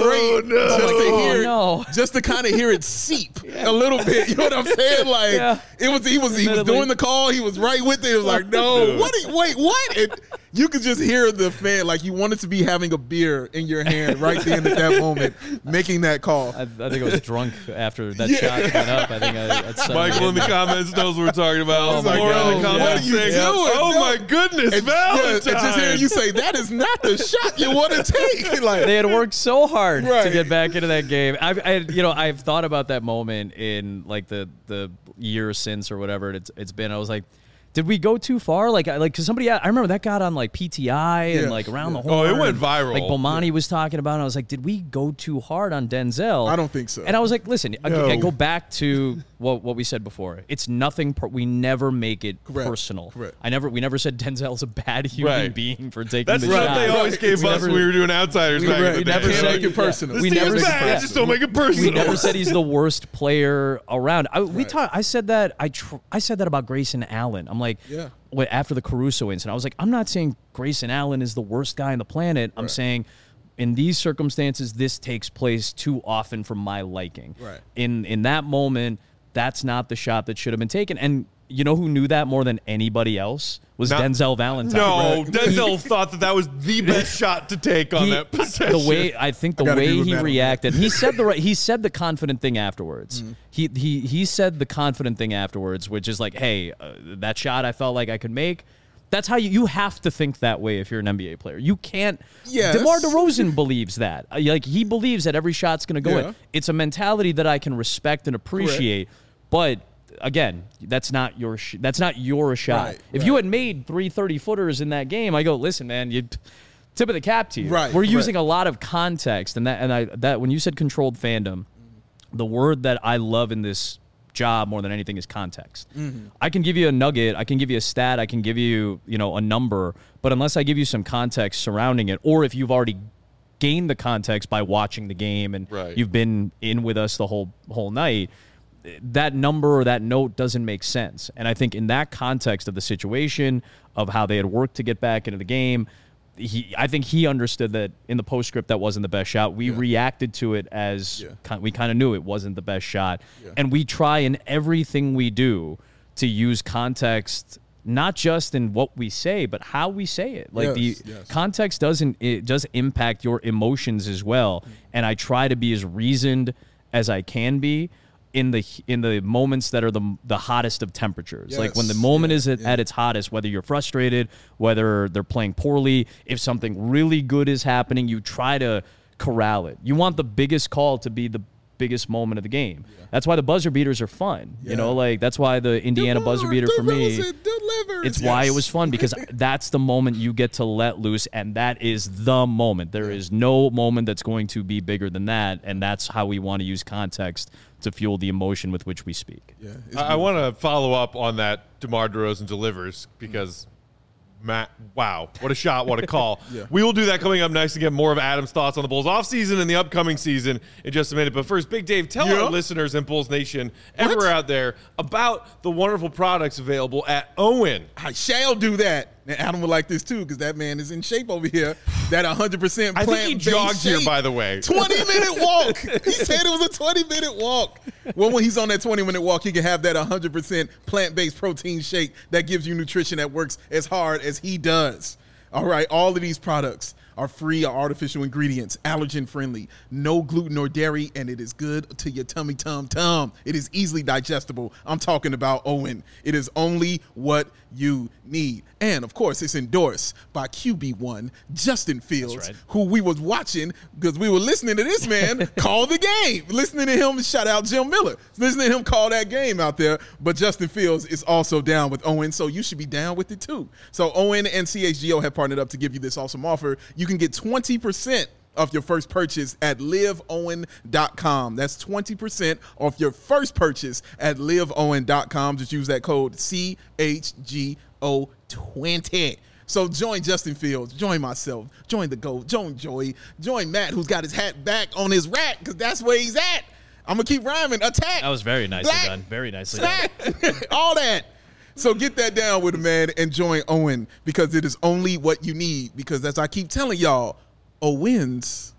great just to kind of hear it seep a little bit. You know what I'm saying? Like he was doing the call. He was right with it. It was like, no, wait, what? And you could just hear the fan, like you wanted to be having a beer in your hand right then at that moment, making that call. I think I was drunk after that shot went up. I think Michael in the comments knows what we're talking about. Oh my God. In the comments what are you saying, doing? Oh my goodness, Valentine. And just hearing you say that is not the shot you want to take. Like, they had worked so hard to get back into that game. I've thought about that moment in like the year since or whatever it's been. I was like, did we go too far? Like, because somebody, I remember that got on like PTI and like around the horn. Oh, it went viral. Like Bomani was talking about it. I was like, did we go too hard on Denzel? I don't think so. And I was like, listen, I go back to what we said before. It's nothing. We never make it personal. Correct. We never said Denzel's a bad human being for taking That's the shot. That's what they always gave us when we were doing Outsiders back in the day. We never said make it personal. This team's bad. Just don't make it personal. We never said he's the worst player around. I said that. I said that about Grayson Allen. I'm like, after the Caruso incident, I was like, I'm not saying Grayson Allen is the worst guy on the planet. I'm saying in these circumstances, this takes place too often for my liking. Right. In that moment, that's not the shot that should have been taken. And you know who knew that more than anybody else? Was Denzel Valentine. No, Denzel thought that was the best shot to take on that possession. The way he reacted, he said the confident thing afterwards. He said the confident thing afterwards, which is like, hey, that shot I felt like I could make. That's how you have to think that way if you're an NBA player. You can't. Yes. DeMar DeRozan believes that. Like, he believes that every shot's going to go in. It's a mentality that I can respect and appreciate. Correct. But again, that's not your shot. Right, if you had made 3 30-footers in that game, I go, listen, man, you tip of the cap to you. Right. We're using a lot of context, and that when you said controlled fandom, the word that I love in this job more than anything is context. I can give you a nugget, I can give you a stat, I can give you, a number, but unless I give you some context surrounding it, or if you've already gained the context by watching the game and you've been in with us the whole night, that number or that note doesn't make sense. And I think in that context of the situation, of how they had worked to get back into the game, I think he understood that in the postscript that wasn't the best shot. We reacted to it as we kind of knew it wasn't the best shot. And we try in everything we do to use context, not just in what we say, but how we say it. Like context does impact your emotions as well. And I try to be as reasoned as I can be in the moments that are the hottest of temperatures. Like when the moment is at its hottest, whether you're frustrated, whether they're playing poorly, if something really good is happening, you try to corral it. You want the biggest call to be the biggest moment of the game. That's why the buzzer beaters are fun. That's why the Indiana buzzer beater for me, it's why it was fun, because that's the moment you get to let loose, and that is the moment. There is no moment that's going to be bigger than that, and that's how we want to use context to fuel the emotion with which we speak. I want to follow up on that DeMar DeRozan delivers, because Matt, wow, what a shot, what a call. We will do that coming up next to get more of Adam's thoughts on the Bulls offseason and the upcoming season in just a minute. But first, Big Dave, tell our listeners and Bulls Nation everywhere out there about the wonderful products available at Owen. I shall do that. And Adam would like this too, because that man is in shape over here. That 100% plant-based I think he jogged here, by the way. 20-minute walk. He said it was a 20-minute walk. Well, when he's on that 20-minute walk, he can have that 100% plant-based protein shake that gives you nutrition that works as hard as he does. All right, all of these products are free of artificial ingredients, allergen-friendly, no gluten or dairy, and it is good to your tummy tum-tum. It is easily digestible. I'm talking about Owen. It is only what you need. And, of course, it's endorsed by QB1, Justin Fields, who we was watching because we were listening to this man call the game. Listening to him, shout out Jim Miller. Listening to him call that game out there. But Justin Fields is also down with Owen, so you should be down with it too. So Owen and CHGO have partnered up to give you this awesome offer. You can get 20% off your first purchase at liveowen.com. That's 20% off your first purchase at liveowen.com. Just use that code CHGO20. So join Justin Fields, join myself, join the GOAT, join Joey, join Matt, who's got his hat back on his rack, because that's where he's at. I'm going to keep rhyming. Attack. That was very nicely done. Very nicely done. All that. So get that down with a man and join Owen, because it is only what you need. Because as I keep telling y'all, a win's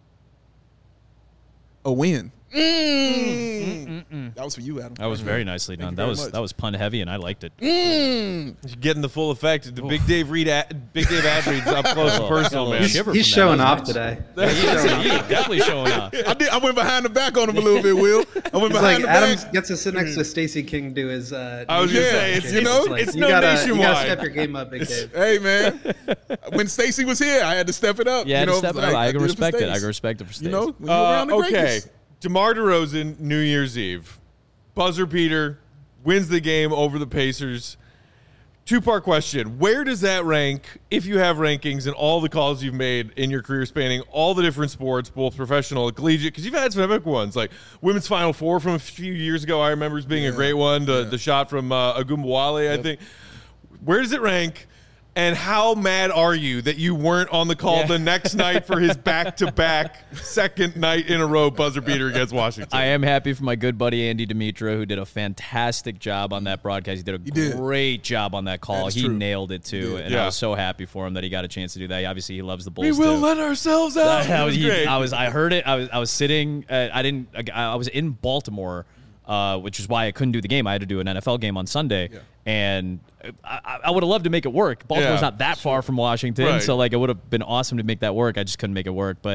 a win. That was for you, Adam. That was very nicely done. That was pun heavy, and I liked it. You're getting the full effect. The Big Dave ad reads up close and personal, man. He's showing off today. He's definitely showing off. I went behind the back on him a little bit, Will. I went behind the Adam back. gets to sit next to Stacey King do his. I was gonna say it's you nationwide. You gotta step your game up, Big Dave. Hey man, when Stacey was here, I had to step it up. Yeah, step it up. I can respect it. I can respect it for Stacey. When you're around the greatness. DeMar DeRozan, New Year's Eve. Buzzer beater, wins the game over the Pacers. Two-part question. Where does that rank, if you have rankings, and all the calls you've made in your career spanning all the different sports, both professional and collegiate? Because you've had some epic ones, like Women's Final Four from a few years ago, I remember as being a great one. The shot from Agumbawale, I think. Where does it rank? And how mad are you that you weren't on the call the next night for his back-to-back second night in a row buzzer beater against Washington? I am happy for my good buddy Andy Dimitra, who did a fantastic job on that broadcast. He did a great job on that call. He nailed it too, and I was so happy for him that he got a chance to do that. Obviously, he loves the Bulls. We will let ourselves out. I heard it. I was sitting. I was in Baltimore. Which is why I couldn't do the game. I had to do an NFL game on Sunday, and I would have loved to make it work. Baltimore's not that far from Washington, so it would have been awesome to make that work. I just couldn't make it work. But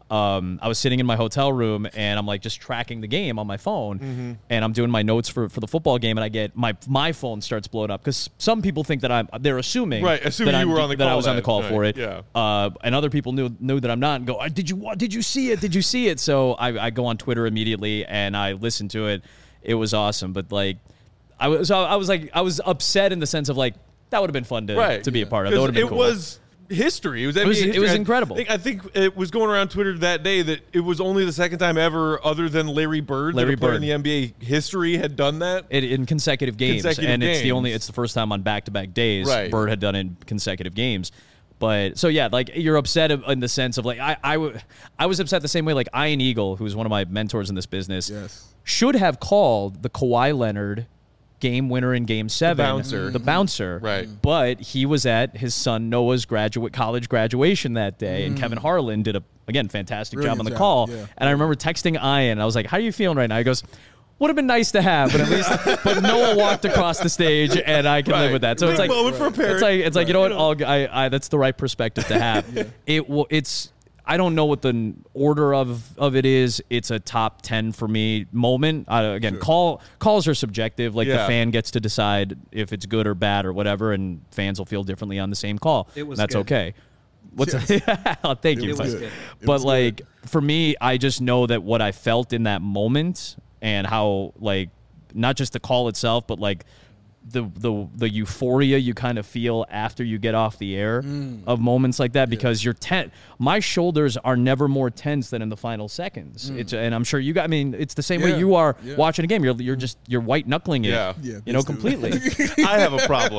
I was sitting in my hotel room and I'm like just tracking the game on my phone, and I'm doing my notes for the football game, and I get my phone starts blowing up because some people think that they're assuming that I was on the call right. for it, yeah. And other people knew that I'm not, and go, did you see it? Did you see it? So I go on Twitter immediately and I listen to it. It was awesome, but like I was upset in the sense of like that would have been fun to be a part of. That would have been cool. Was history. It was NBA history. It was incredible. I think it was going around Twitter that day that it was only the second time ever, other than Larry Bird, that a player in the NBA history had done that in consecutive games. It's the first time on back-to-back days Bird had done it in consecutive games. But so yeah, like you're upset in the sense of like I was upset the same way. Like Ian Eagle, who's one of my mentors in this business, should have called the Kawhi Leonard game winner in Game 7, the bouncer. Right. But he was at his son Noah's college graduation that day, and Kevin Harlan did a fantastic job on the call. Yeah. And I remember texting Ian, and I was like, "How are you feeling right now?" He goes, "Would have been nice to have, but at least." But Noah walked across the stage, and I can live with that. So it's like for a parent. It's like you know what? That's the right perspective to have. It's. I don't know what the order of it is. It's a top 10 for me moment. Calls are subjective. Like the fan gets to decide if it's good or bad or whatever, and fans will feel differently on the same call. That's okay. Thank you. But like for me, I just know that what I felt in that moment and how like not just the call itself, but like the euphoria you kind of feel after you get off the air of moments like that, because you're tense. My shoulders are never more tense than in the final seconds. And I'm sure you got. I mean, it's the same way you are watching a game. You're white knuckling it. Completely. I have a problem.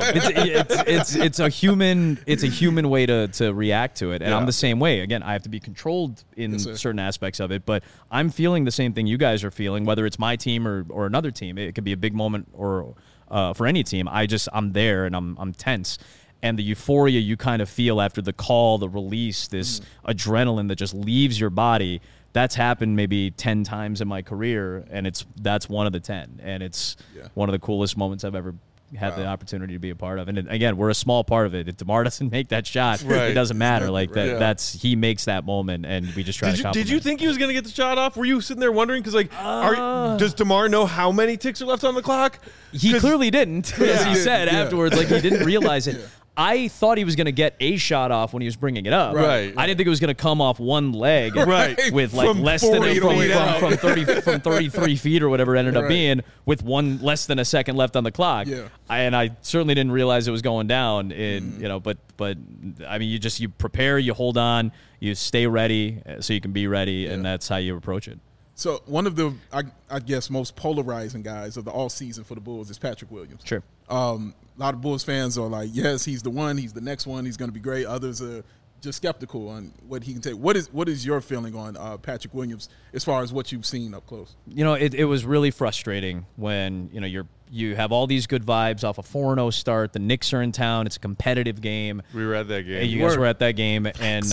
It's a human way to react to it, and I'm the same way. Again, I have to be controlled in certain aspects of it, but I'm feeling the same thing you guys are feeling, whether it's my team or another team. It could be a big moment or. For any team, I'm there and I'm tense, and the euphoria you kind of feel after the call, the release, this adrenaline that just leaves your body. That's happened maybe 10 times in my career, and that's one of the 10, and it's one of the coolest moments I've ever had the opportunity to be a part of. And again, we're a small part of it. If DeMar doesn't make that shot, it doesn't matter. Like that, he makes that moment, and we just try to compliment. Did you think he was going to get the shot off? Were you sitting there wondering? Because does DeMar know how many ticks are left on the clock? He clearly didn't, as he said afterwards. Like he didn't realize it. I thought he was going to get a shot off when he was bringing it up. Right. I didn't think it was going to come off one leg. With like from less than from 33 feet or whatever it ended up being, with less than a second left on the clock. Yeah. And I certainly didn't realize it was going down. But I mean, you prepare, you hold on, you stay ready so you can be ready, and that's how you approach it. So one of the, I guess, most polarizing guys of the all season for the Bulls is Patrick Williams. Sure. A lot of Bulls fans are like, yes, he's the one. He's the next one. He's going to be great. Others are just skeptical on what he can take. What is your feeling on Patrick Williams as far as what you've seen up close? It was really frustrating when you have all these good vibes off a 4-0 start. The Knicks are in town. It's a competitive game. We were at that game. You guys were at that game, and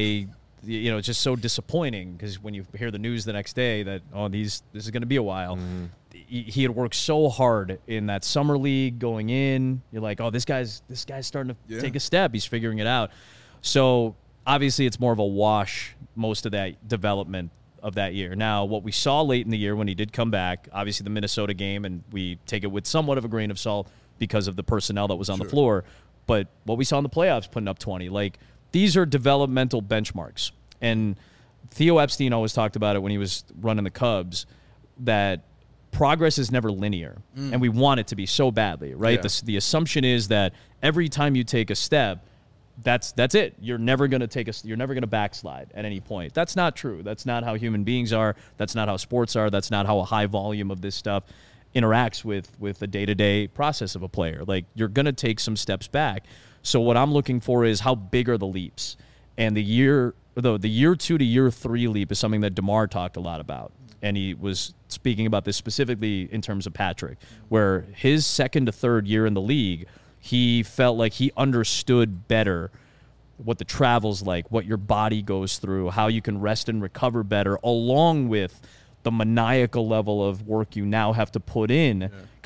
it's just so disappointing because when you hear the news the next day that this is going to be a while. He had worked so hard in that summer league going in. You're like, this guy's starting to take a step. He's figuring it out. So obviously it's more of a wash, most of that development of that year. Now, what we saw late in the year when he did come back, obviously the Minnesota game, and we take it with somewhat of a grain of salt because of the personnel that was on the floor. But what we saw in the playoffs, putting up 20, like these are developmental benchmarks. And Theo Epstein always talked about it when he was running the Cubs, that progress is never linear, and we want it to be so badly, right? Yeah. The assumption is that every time you take a step, that's it. You're never going to backslide at any point. That's not true. That's not how human beings are. That's not how sports are. That's not how a high volume of this stuff interacts with the day-to-day process of a player. Like, you're going to take some steps back. So what I'm looking for is how big are the leaps, and the year 2 to year 3 leap is something that DeMar talked a lot about. And he was speaking about this specifically in terms of Patrick, where his second to third year in the league, he felt like he understood better what the travel's like, what your body goes through, how you can rest and recover better, along with the maniacal level of work you now have to put in.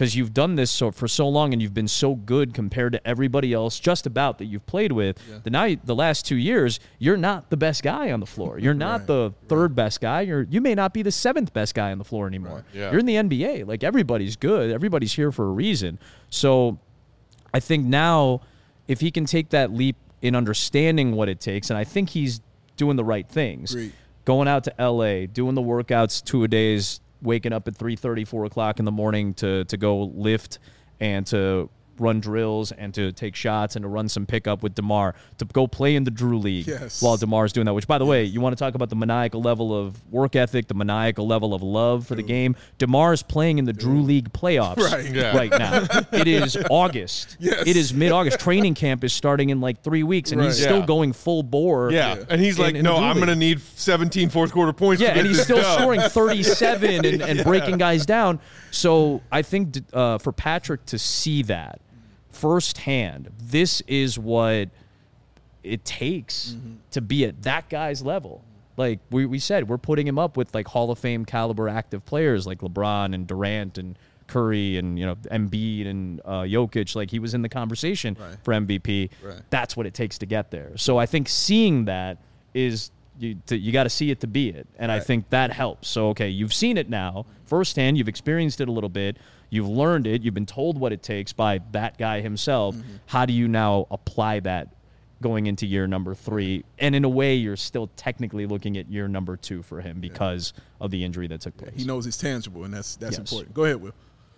because you've done this for so long and you've been so good compared to everybody else just about that you've played with. Yeah. The last 2 years, you're not the best guy on the floor. You're not the third best guy. You may not be the seventh best guy on the floor anymore. Right. Yeah. You're in the NBA. Like, everybody's good. Everybody's here for a reason. So I think now if he can take that leap in understanding what it takes, and I think he's doing the right things. Great. Going out to LA, doing the workouts 2-a-days, waking up at 3:30, 4 o'clock in the morning to go lift and to run drills and to take shots and to run some pickup with DeMar, to go play in the Drew League while DeMar's doing that, which, by the way, you want to talk about the maniacal level of work ethic, the maniacal level of love for the game. DeMar's playing in the Drew League playoffs right now. It is August. Yes. It is mid-August. Training camp is starting in like 3 weeks, and he's still going full bore. Yeah, and he's like, no, I'm going to need 17 fourth-quarter points to get and he's this still done. scoring 37 and breaking guys down. So I think for Patrick to see that firsthand, this is what it takes to be at that guy's level. Like we said, we're putting him up with like Hall of Fame caliber active players like LeBron and Durant and Curry and Embiid and Jokic. Like, he was in the conversation for MVP. Right. That's what it takes to get there. So I think seeing that is you got to see it to be it, and I think that helps. So okay, you've seen it now firsthand. You've experienced it a little bit. You've learned it. You've been told what it takes by that guy himself. How do you now apply that going into year number 3? And in a way, you're still technically looking at year number 2 for him because of the injury that took place. He knows it's tangible, and that's important. Go ahead, Will.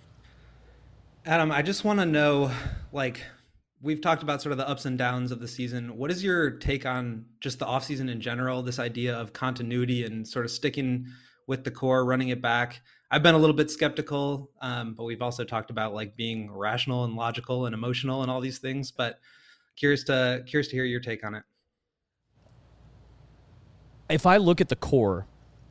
Adam, I just want to know, like, we've talked about sort of the ups and downs of the season. What is your take on just the offseason in general, this idea of continuity and sort of sticking with the core, running it back? I've been a little bit skeptical, but we've also talked about like being rational and logical and emotional and all these things. But curious to hear your take on it. If I look at the core,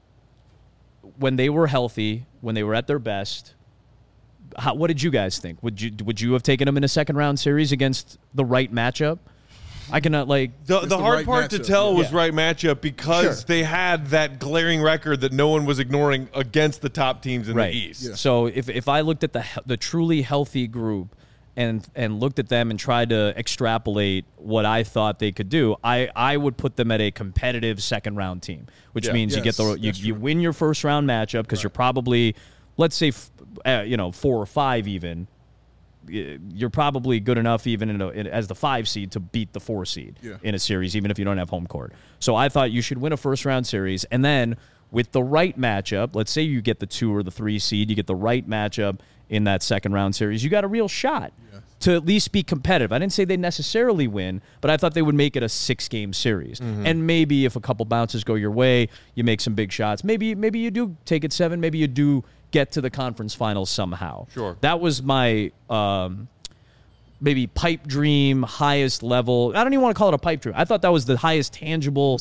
when they were healthy, when they were at their best, what did you guys think? Would you have taken them in a second round series against the right matchup? I cannot the hard part to tell was right matchup because they had that glaring record that no one was ignoring against the top teams in the East. Yeah. So if I looked at the truly healthy group and looked at them and tried to extrapolate what I thought they could do, I would put them at a competitive second round team, which means you win your first round matchup because you're probably, let's say 4 or 5 even. You're probably good enough even as the 5 seed to beat the 4 seed in a series, even if you don't have home court. So I thought you should win a first-round series, and then with the right matchup, let's say you get the 2 or the 3 seed, you get the right matchup in that second-round series, you got a real shot to at least be competitive. I didn't say they'd necessarily win, but I thought they would make it a 6-game series. And maybe if a couple bounces go your way, you make some big shots. Maybe you do take it 7, maybe you do get to the conference finals somehow. Sure. That was my maybe pipe dream, highest level. I don't even want to call it a pipe dream. I thought that was the highest tangible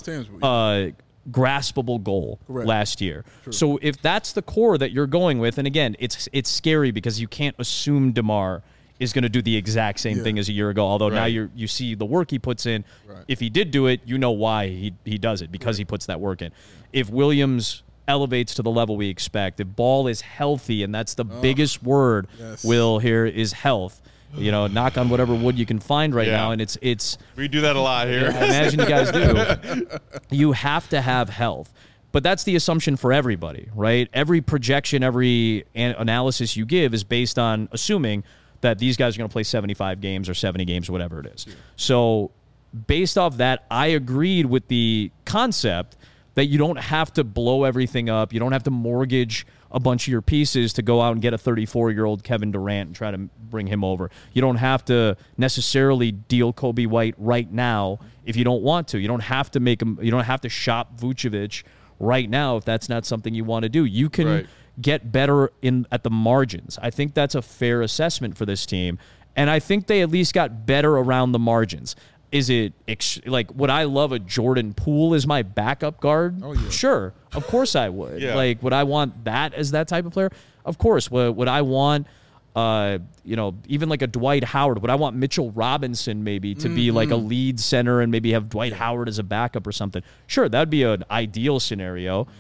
graspable goal last year. True. So if that's the core that you're going with, and again, it's scary because you can't assume DeMar is going to do the exact same thing as a year ago, although now you see the work he puts in. Right. If he did do it, you know why he does it, because he puts that work in. If Williams elevates to the level we expect, if Ball is healthy, and that's the biggest word, Will, here is health. Knock on whatever wood you can find right now, and it's we do that a lot here. I imagine you guys do. You have to have health. But that's the assumption for everybody, right? Every projection, every analysis you give is based on assuming that these guys are going to play 75 games or 70 games or whatever it is. Yeah. So based off that, I agreed with the concept that you don't have to blow everything up. You don't have to mortgage a bunch of your pieces to go out and get a 34-year-old Kevin Durant and try to bring him over. You don't have to necessarily deal Kobe White right now if you don't want to. You don't have to make him. You don't have to shop Vucevic right now if that's not something you want to do. You can get better at the margins. I think that's a fair assessment for this team, and I think they at least got better around the margins. Is it would I love a Jordan Poole as my backup guard? Oh, yeah. Sure, of course I would. Would I want that as that type of player? Of course. Would I want, even like a Dwight Howard? Would I want Mitchell Robinson maybe to be like a lead center and maybe have Dwight Howard as a backup or something? Sure, that'd be an ideal scenario. But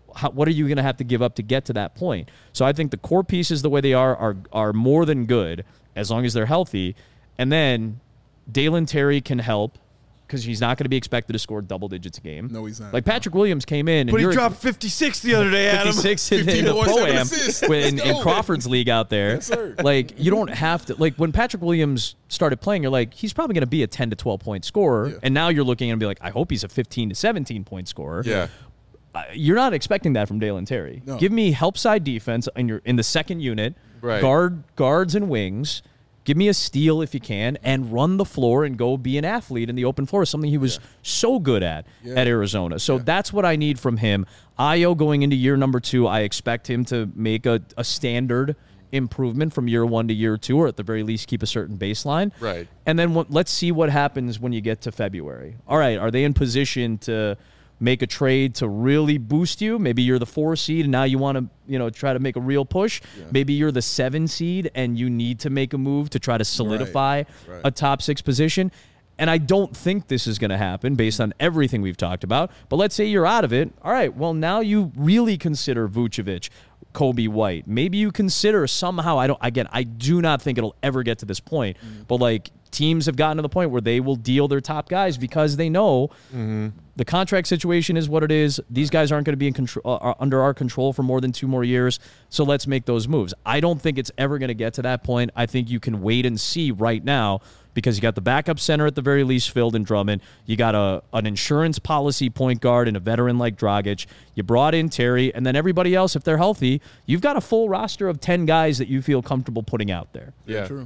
what are you going to have to give up to get to that point? So I think the core pieces, the way they are more than good as long as they're healthy. And then Dalen Terry can help because he's not going to be expected to score double digits a game. No, he's not. Like Patrick Williams came in. But he dropped 56 the other day, Adam. 56 in the Pro-Am in Crawford's league out there. Yes, sir. Like, you don't have to. Like, when Patrick Williams started playing, you're like, he's probably going to be a 10 to 12-point scorer. Yeah. And now you're looking and be like, I hope he's a 15 to 17-point scorer. Yeah. You're not expecting that from Dalen Terry. No. Give me help side defense in the second unit, right. guards and wings. Give me a steal if you can, and run the floor and go be an athlete in the open floor, something he was so good at Arizona. So that's what I need from him. Ayo going into year number 2, I expect him to make a standard improvement from year 1 to year 2, or at the very least keep a certain baseline. Right. And then let's see what happens when you get to February. All right, are they in position to make a trade to really boost you? Maybe you're the 4 seed and now you want to, try to make a real push. Yeah. Maybe you're the 7 seed and you need to make a move to try to solidify a top 6 position. And I don't think this is going to happen based on everything we've talked about. But let's say you're out of it. All right, well, now you really consider Vucevic, Kobe White. Maybe you consider somehow, I do not think it'll ever get to this point, but like teams have gotten to the point where they will deal their top guys because they know the contract situation is what it is. These guys aren't going to be in control, under our control for more than 2 more years. So let's make those moves. I don't think it's ever going to get to that point. I think you can wait and see right now because you got the backup center at the very least filled in Drummond. You got an insurance policy point guard and a veteran like Dragic. You brought in Terry, and then everybody else, if they're healthy, you've got a full roster of 10 guys that you feel comfortable putting out there. Yeah, true.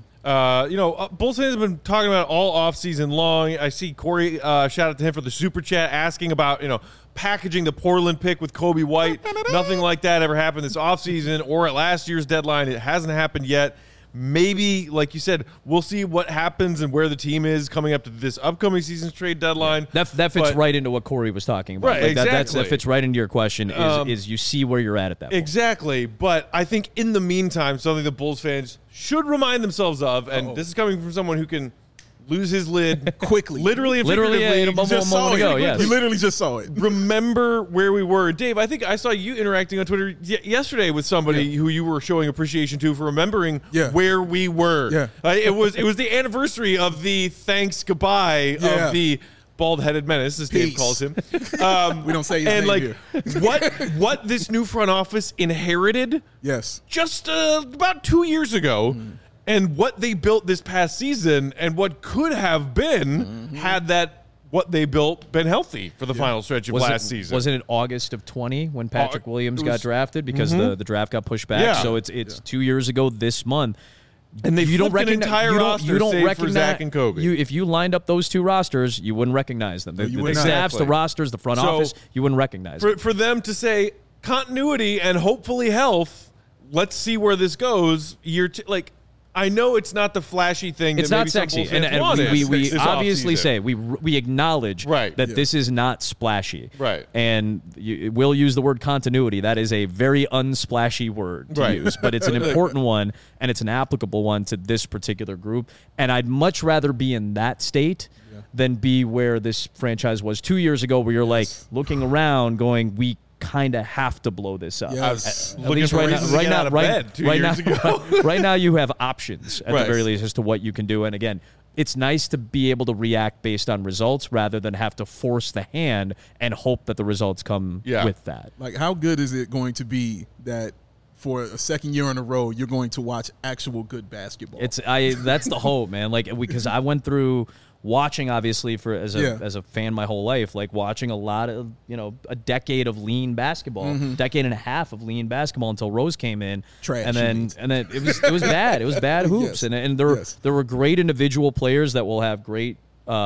Bulls fans have been talking about it all offseason long. I see Corey, shout out to him for the super chat, asking about, packaging the Portland pick with Kobe White. Nothing like that ever happened this offseason or at last year's deadline. It hasn't happened yet. Maybe, like you said, we'll see what happens and where the team is coming up to this upcoming season's trade deadline. That fits right into what Corey was talking about. Right, like exactly. That fits right into your question is you see where you're at that point. Exactly. But I think in the meantime, something the Bulls fans should remind themselves of, and this is coming from someone who can lose his lid quickly. Literally and figuratively. A moment ago, yes. You literally just saw it. Remember where we were. Dave, I think I saw you interacting on Twitter yesterday with somebody who you were showing appreciation to for remembering where we were. Yeah. It was the anniversary of the thanks goodbye of the bald-headed menace, as Dave calls him. We don't say his name here. what this new front office inherited just about 2 years ago, and what they built this past season, and what could have been had that what they built been healthy for the final stretch of last season. Wasn't it August of 20 when Patrick Williams got drafted because the draft got pushed back? Yeah. So it's 2 years ago this month. And they flipped an entire roster save for Zach and Kobe. If you lined up those 2 rosters, you wouldn't recognize them. The staffs, the rosters, the front office, you wouldn't recognize them. For them to say continuity and hopefully health, let's see where this goes. I know it's not the flashy thing. It's that not maybe sexy, some and we obviously say we acknowledge that this is not splashy, right? And we'll use the word continuity. That is a very unsplashy word to use, but it's an important one, and it's an applicable one to this particular group. And I'd much rather be in that state than be where this franchise was 2 years ago, where you're like looking around, going, we kind of have to blow this up. I was looking for reasons to get out of bed 2 years ago. Right now you have options at the very least as to what you can do. And again, it's nice to be able to react based on results rather than have to force the hand and hope that the results come with that. Like, how good is it going to be that for a second year in a row you're going to watch actual good basketball? That's the hope, man. Like, because I went through watching, obviously, as a fan my whole life, like watching a lot of, a decade of lean basketball, decade and a half of lean basketball until Rose came in. Trash. And then it was bad. It was bad hoops. And there were great individual players that will have great,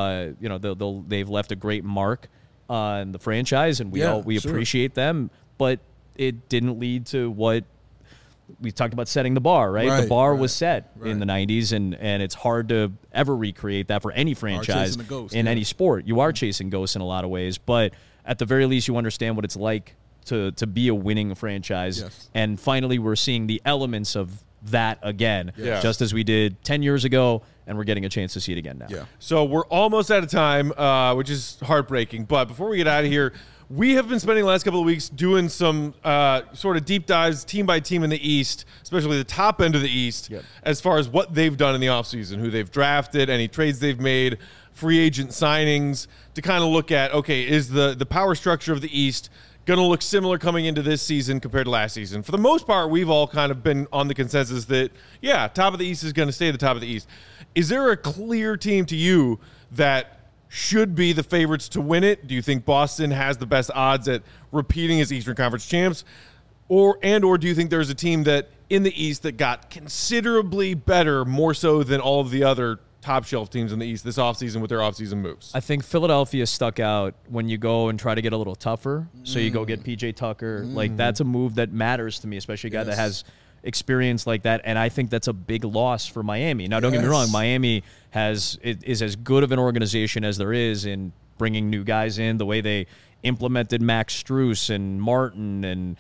they've left a great mark on the franchise, and we appreciate them, but it didn't lead to what we talked about, setting the bar, right? The bar was set in the 90s, and it's hard to ever recreate that for any franchise in any sport. You are chasing ghosts in a lot of ways, but at the very least, you understand what it's like to be a winning franchise. And finally, we're seeing the elements of that again, just as we did 10 years ago, and we're getting a chance to see it again now. So we're almost out of time, which is heartbreaking. But before we get out of here, We have been spending the last couple of weeks doing some sort of deep dives team by team in the East, especially the top end of the East, as far as what they've done in the offseason, who they've drafted, any trades they've made, free agent signings, to kind of look at, okay, is the power structure of the East going to look similar coming into this season compared to last season? For the most part, we've all kind of been on the consensus that, yeah, top of the East is going to stay the top of the East. Is there a clear team to you that should be the favorites to win it? Do you think Boston has the best odds at repeating as Eastern Conference champs? Or do you think there's a team that in the East that got considerably better, more so than all of the other top shelf teams in the East this offseason with their offseason moves? I think Philadelphia stuck out when you go and try to get a little tougher. So you go get PJ Tucker. Like, that's a move that matters to me, especially a guy that has experience like that. And I think that's a big loss for Miami. Now, don't get me wrong. Miami is as good of an organization as there is in bringing new guys in. The way they implemented Max Strus and Martin and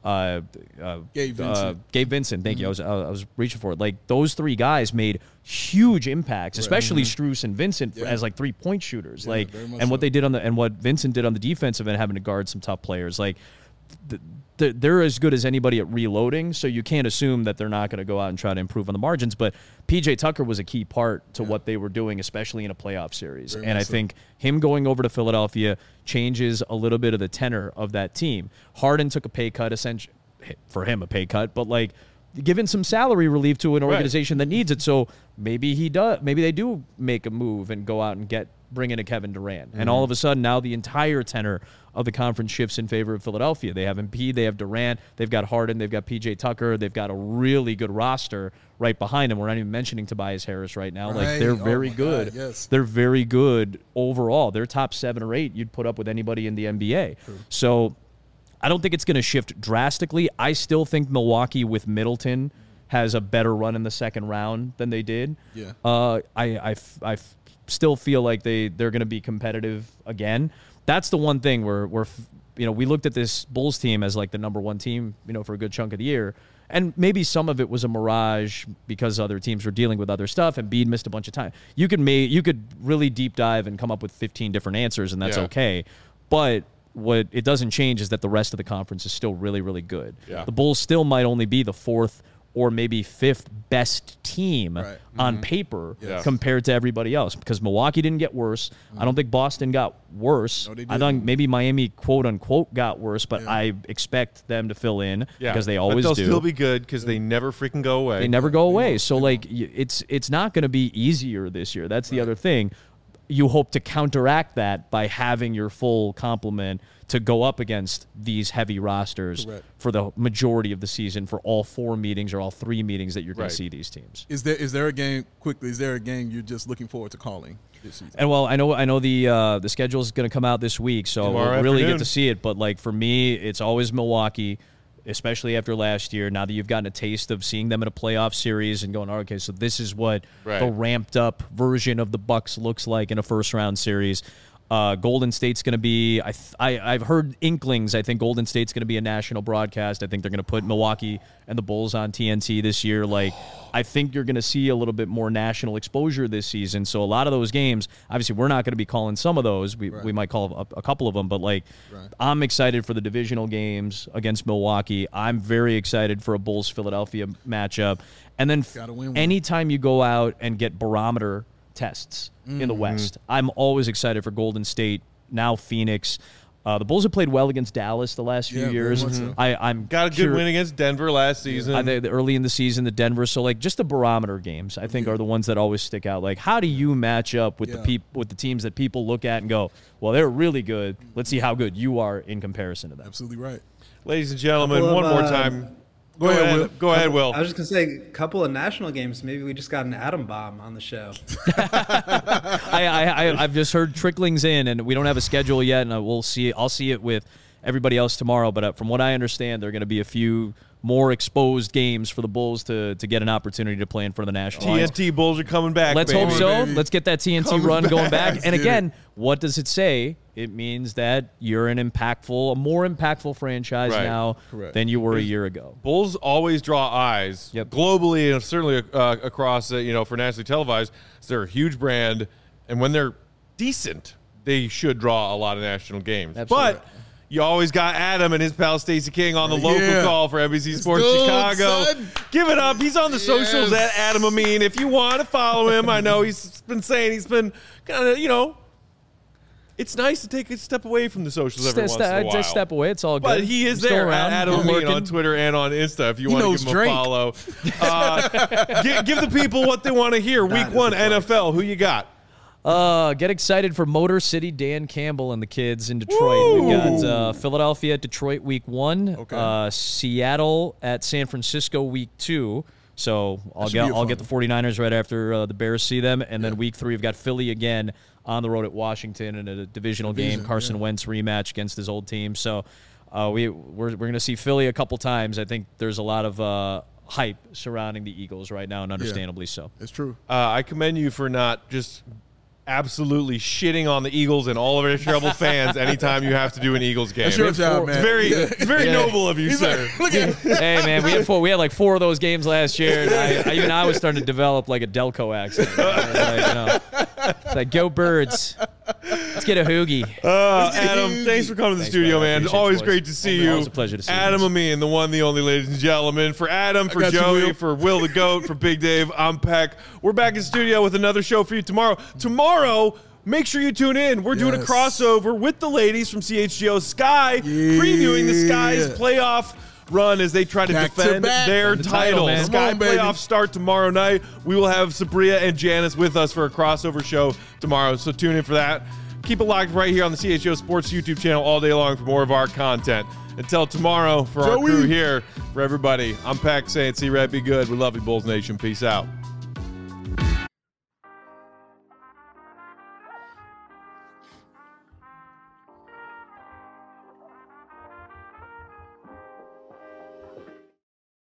Gabe Vincent. Thank you. I was reaching for it. Like, those three guys made huge impacts, especially Strus and Vincent as like 3-point shooters. Like, and what they did and what Vincent did on the defensive end, having to guard some tough players. Like, they're as good as anybody at reloading, so you can't assume that they're not going to go out and try to improve on the margins. But PJ Tucker was a key part to what they were doing, especially in a playoff series. And I think him going over to Philadelphia changes a little bit of the tenor of that team. Harden took a pay cut, essentially, for him a pay cut, but like giving some salary relief to an organization that needs it. So maybe they do make a move and go out and bring in a Kevin Durant. And all of a sudden now the entire tenor of the conference shifts in favor of Philadelphia. They have Embiid, they have Durant, they've got Harden, they've got PJ Tucker, they've got a really good roster right behind them. We're not even mentioning Tobias Harris right now. Like, they're very good. They're very good overall. They're top 7 or 8 you'd put up with anybody in the NBA. So I don't think it's going to shift drastically. I still think Milwaukee with Middleton has a better run in the second round than they did. I still feel like they're going to be competitive again. That's the one thing where we looked at this Bulls team as like the number one team, for a good chunk of the year. And maybe some of it was a mirage because other teams were dealing with other stuff and Bede missed a bunch of time. You could really deep dive and come up with 15 different answers, and that's okay. But what it doesn't change is that the rest of the conference is still really, really good. The Bulls still might only be the 4th or maybe 5th best team on paper compared to everybody else, because Milwaukee didn't get worse. I don't think Boston got worse. No, I think maybe Miami, quote unquote, got worse, but I expect them to fill in because they always do. But they'll still be good because they never freaking go away. They never go away. So like, it's not going to be easier this year. That's the other thing. You hope to counteract that by having your full complement to go up against these heavy rosters for the majority of the season, for all 4 meetings or all 3 meetings that you're going to see these teams. Is there a game you're just looking forward to calling this season? And well, I know the schedule is going to come out this week, so we'll really get to see it. But like, for me, it's always Milwaukee, especially after last year. Now that you've gotten a taste of seeing them in a playoff series and going, okay, so this is what the ramped up version of the Bucks looks like in a first round series. Golden State's going to be, I've heard inklings. I think Golden State's going to be a national broadcast. I think they're going to put Milwaukee and the Bulls on TNT this year. Like, I think you're going to see a little bit more national exposure this season. So a lot of those games, obviously we're not going to be calling some of those. We might call a couple of them, but like, I'm excited for the divisional games against Milwaukee. I'm very excited for a Bulls-Philadelphia matchup. And then anytime you go out and get barometer tests in the West, I'm always excited for Golden State, now Phoenix. The Bulls have played well against Dallas the last few years. I'm got a good win against Denver last season. Early in the season, the Denver. So like, just the barometer games, I think, are the ones that always stick out. Like, how do you match up with the teams that people look at and go, well, they're really good. Let's see how good you are in comparison to them. Absolutely right. Ladies and gentlemen, one more time. Go ahead, Will. I was just going to say, a couple of national games. Maybe we just got an atom bomb on the show. I've just heard tricklings in, and we don't have a schedule yet, and we'll see. I'll see it with everybody else tomorrow. But from what I understand, there are going to be a few more exposed games for the Bulls to get an opportunity to play in front of the national TNT Bulls are coming back. Let's hope so. Let's get that TNT run going back. And again, what does it say? It means that you're a more impactful franchise now than you were a year ago. Bulls always draw eyes globally and certainly across, for nationally televised. They're a huge brand, and when they're decent, they should draw a lot of national games. Absolutely. But You always got Adam and his pal Stacey King on the local call for NBC Sports Chicago. Son. Give it up. He's on the socials at Adam Amin. If you want to follow him, I know he's been saying he's been kind of, it's nice to take a step away from the socials every once in a while. Just step away. It's all good. But he is there at Adam Amin on Twitter and on Insta if you want to give him a follow. Give the people what they want to hear. Week 1 NFL. Who you got? Get excited for Motor City Dan Campbell and the kids in Detroit. We've got Philadelphia at Detroit week 1, Seattle at San Francisco week 2. So I'll get the 49ers right after the Bears see them. And then week 3, we've got Philly again on the road at Washington in a divisional game. Carson Wentz rematch against his old team. So we're going to see Philly a couple times. I think there's a lot of hype surrounding the Eagles right now, and understandably so. It's true. I commend you for not just absolutely shitting on the Eagles and all of our terrible fans anytime you have to do an Eagles game. That's your job, man. It's very noble of you, sir. Hey, man, we had like 4 of those games last year, and I was starting to develop like a Delco accent. It's like, go Birds. Let's get a hoagie. Adam, thanks for coming to the studio, man. Always great to see you. Always a pleasure to see you. Adam Amin, the one, the only, ladies and gentlemen. For Adam, for Joey, for Will the Goat, for Big Dave, I'm Peck. We're back in studio with another show for you tomorrow. Tomorrow, make sure you tune in. We're doing a crossover with the ladies from CHGO Sky, previewing the Sky's playoff run as they try to defend their title. Sky playoffs start tomorrow night. We will have Sabria and Janice with us for a crossover show tomorrow, so tune in for that. Keep it locked right here on the CHGO Sports YouTube channel all day long for more of our content. Until tomorrow, for our crew here, for everybody, I'm Pack saying, see Red, be good. We love you, Bulls Nation. Peace out.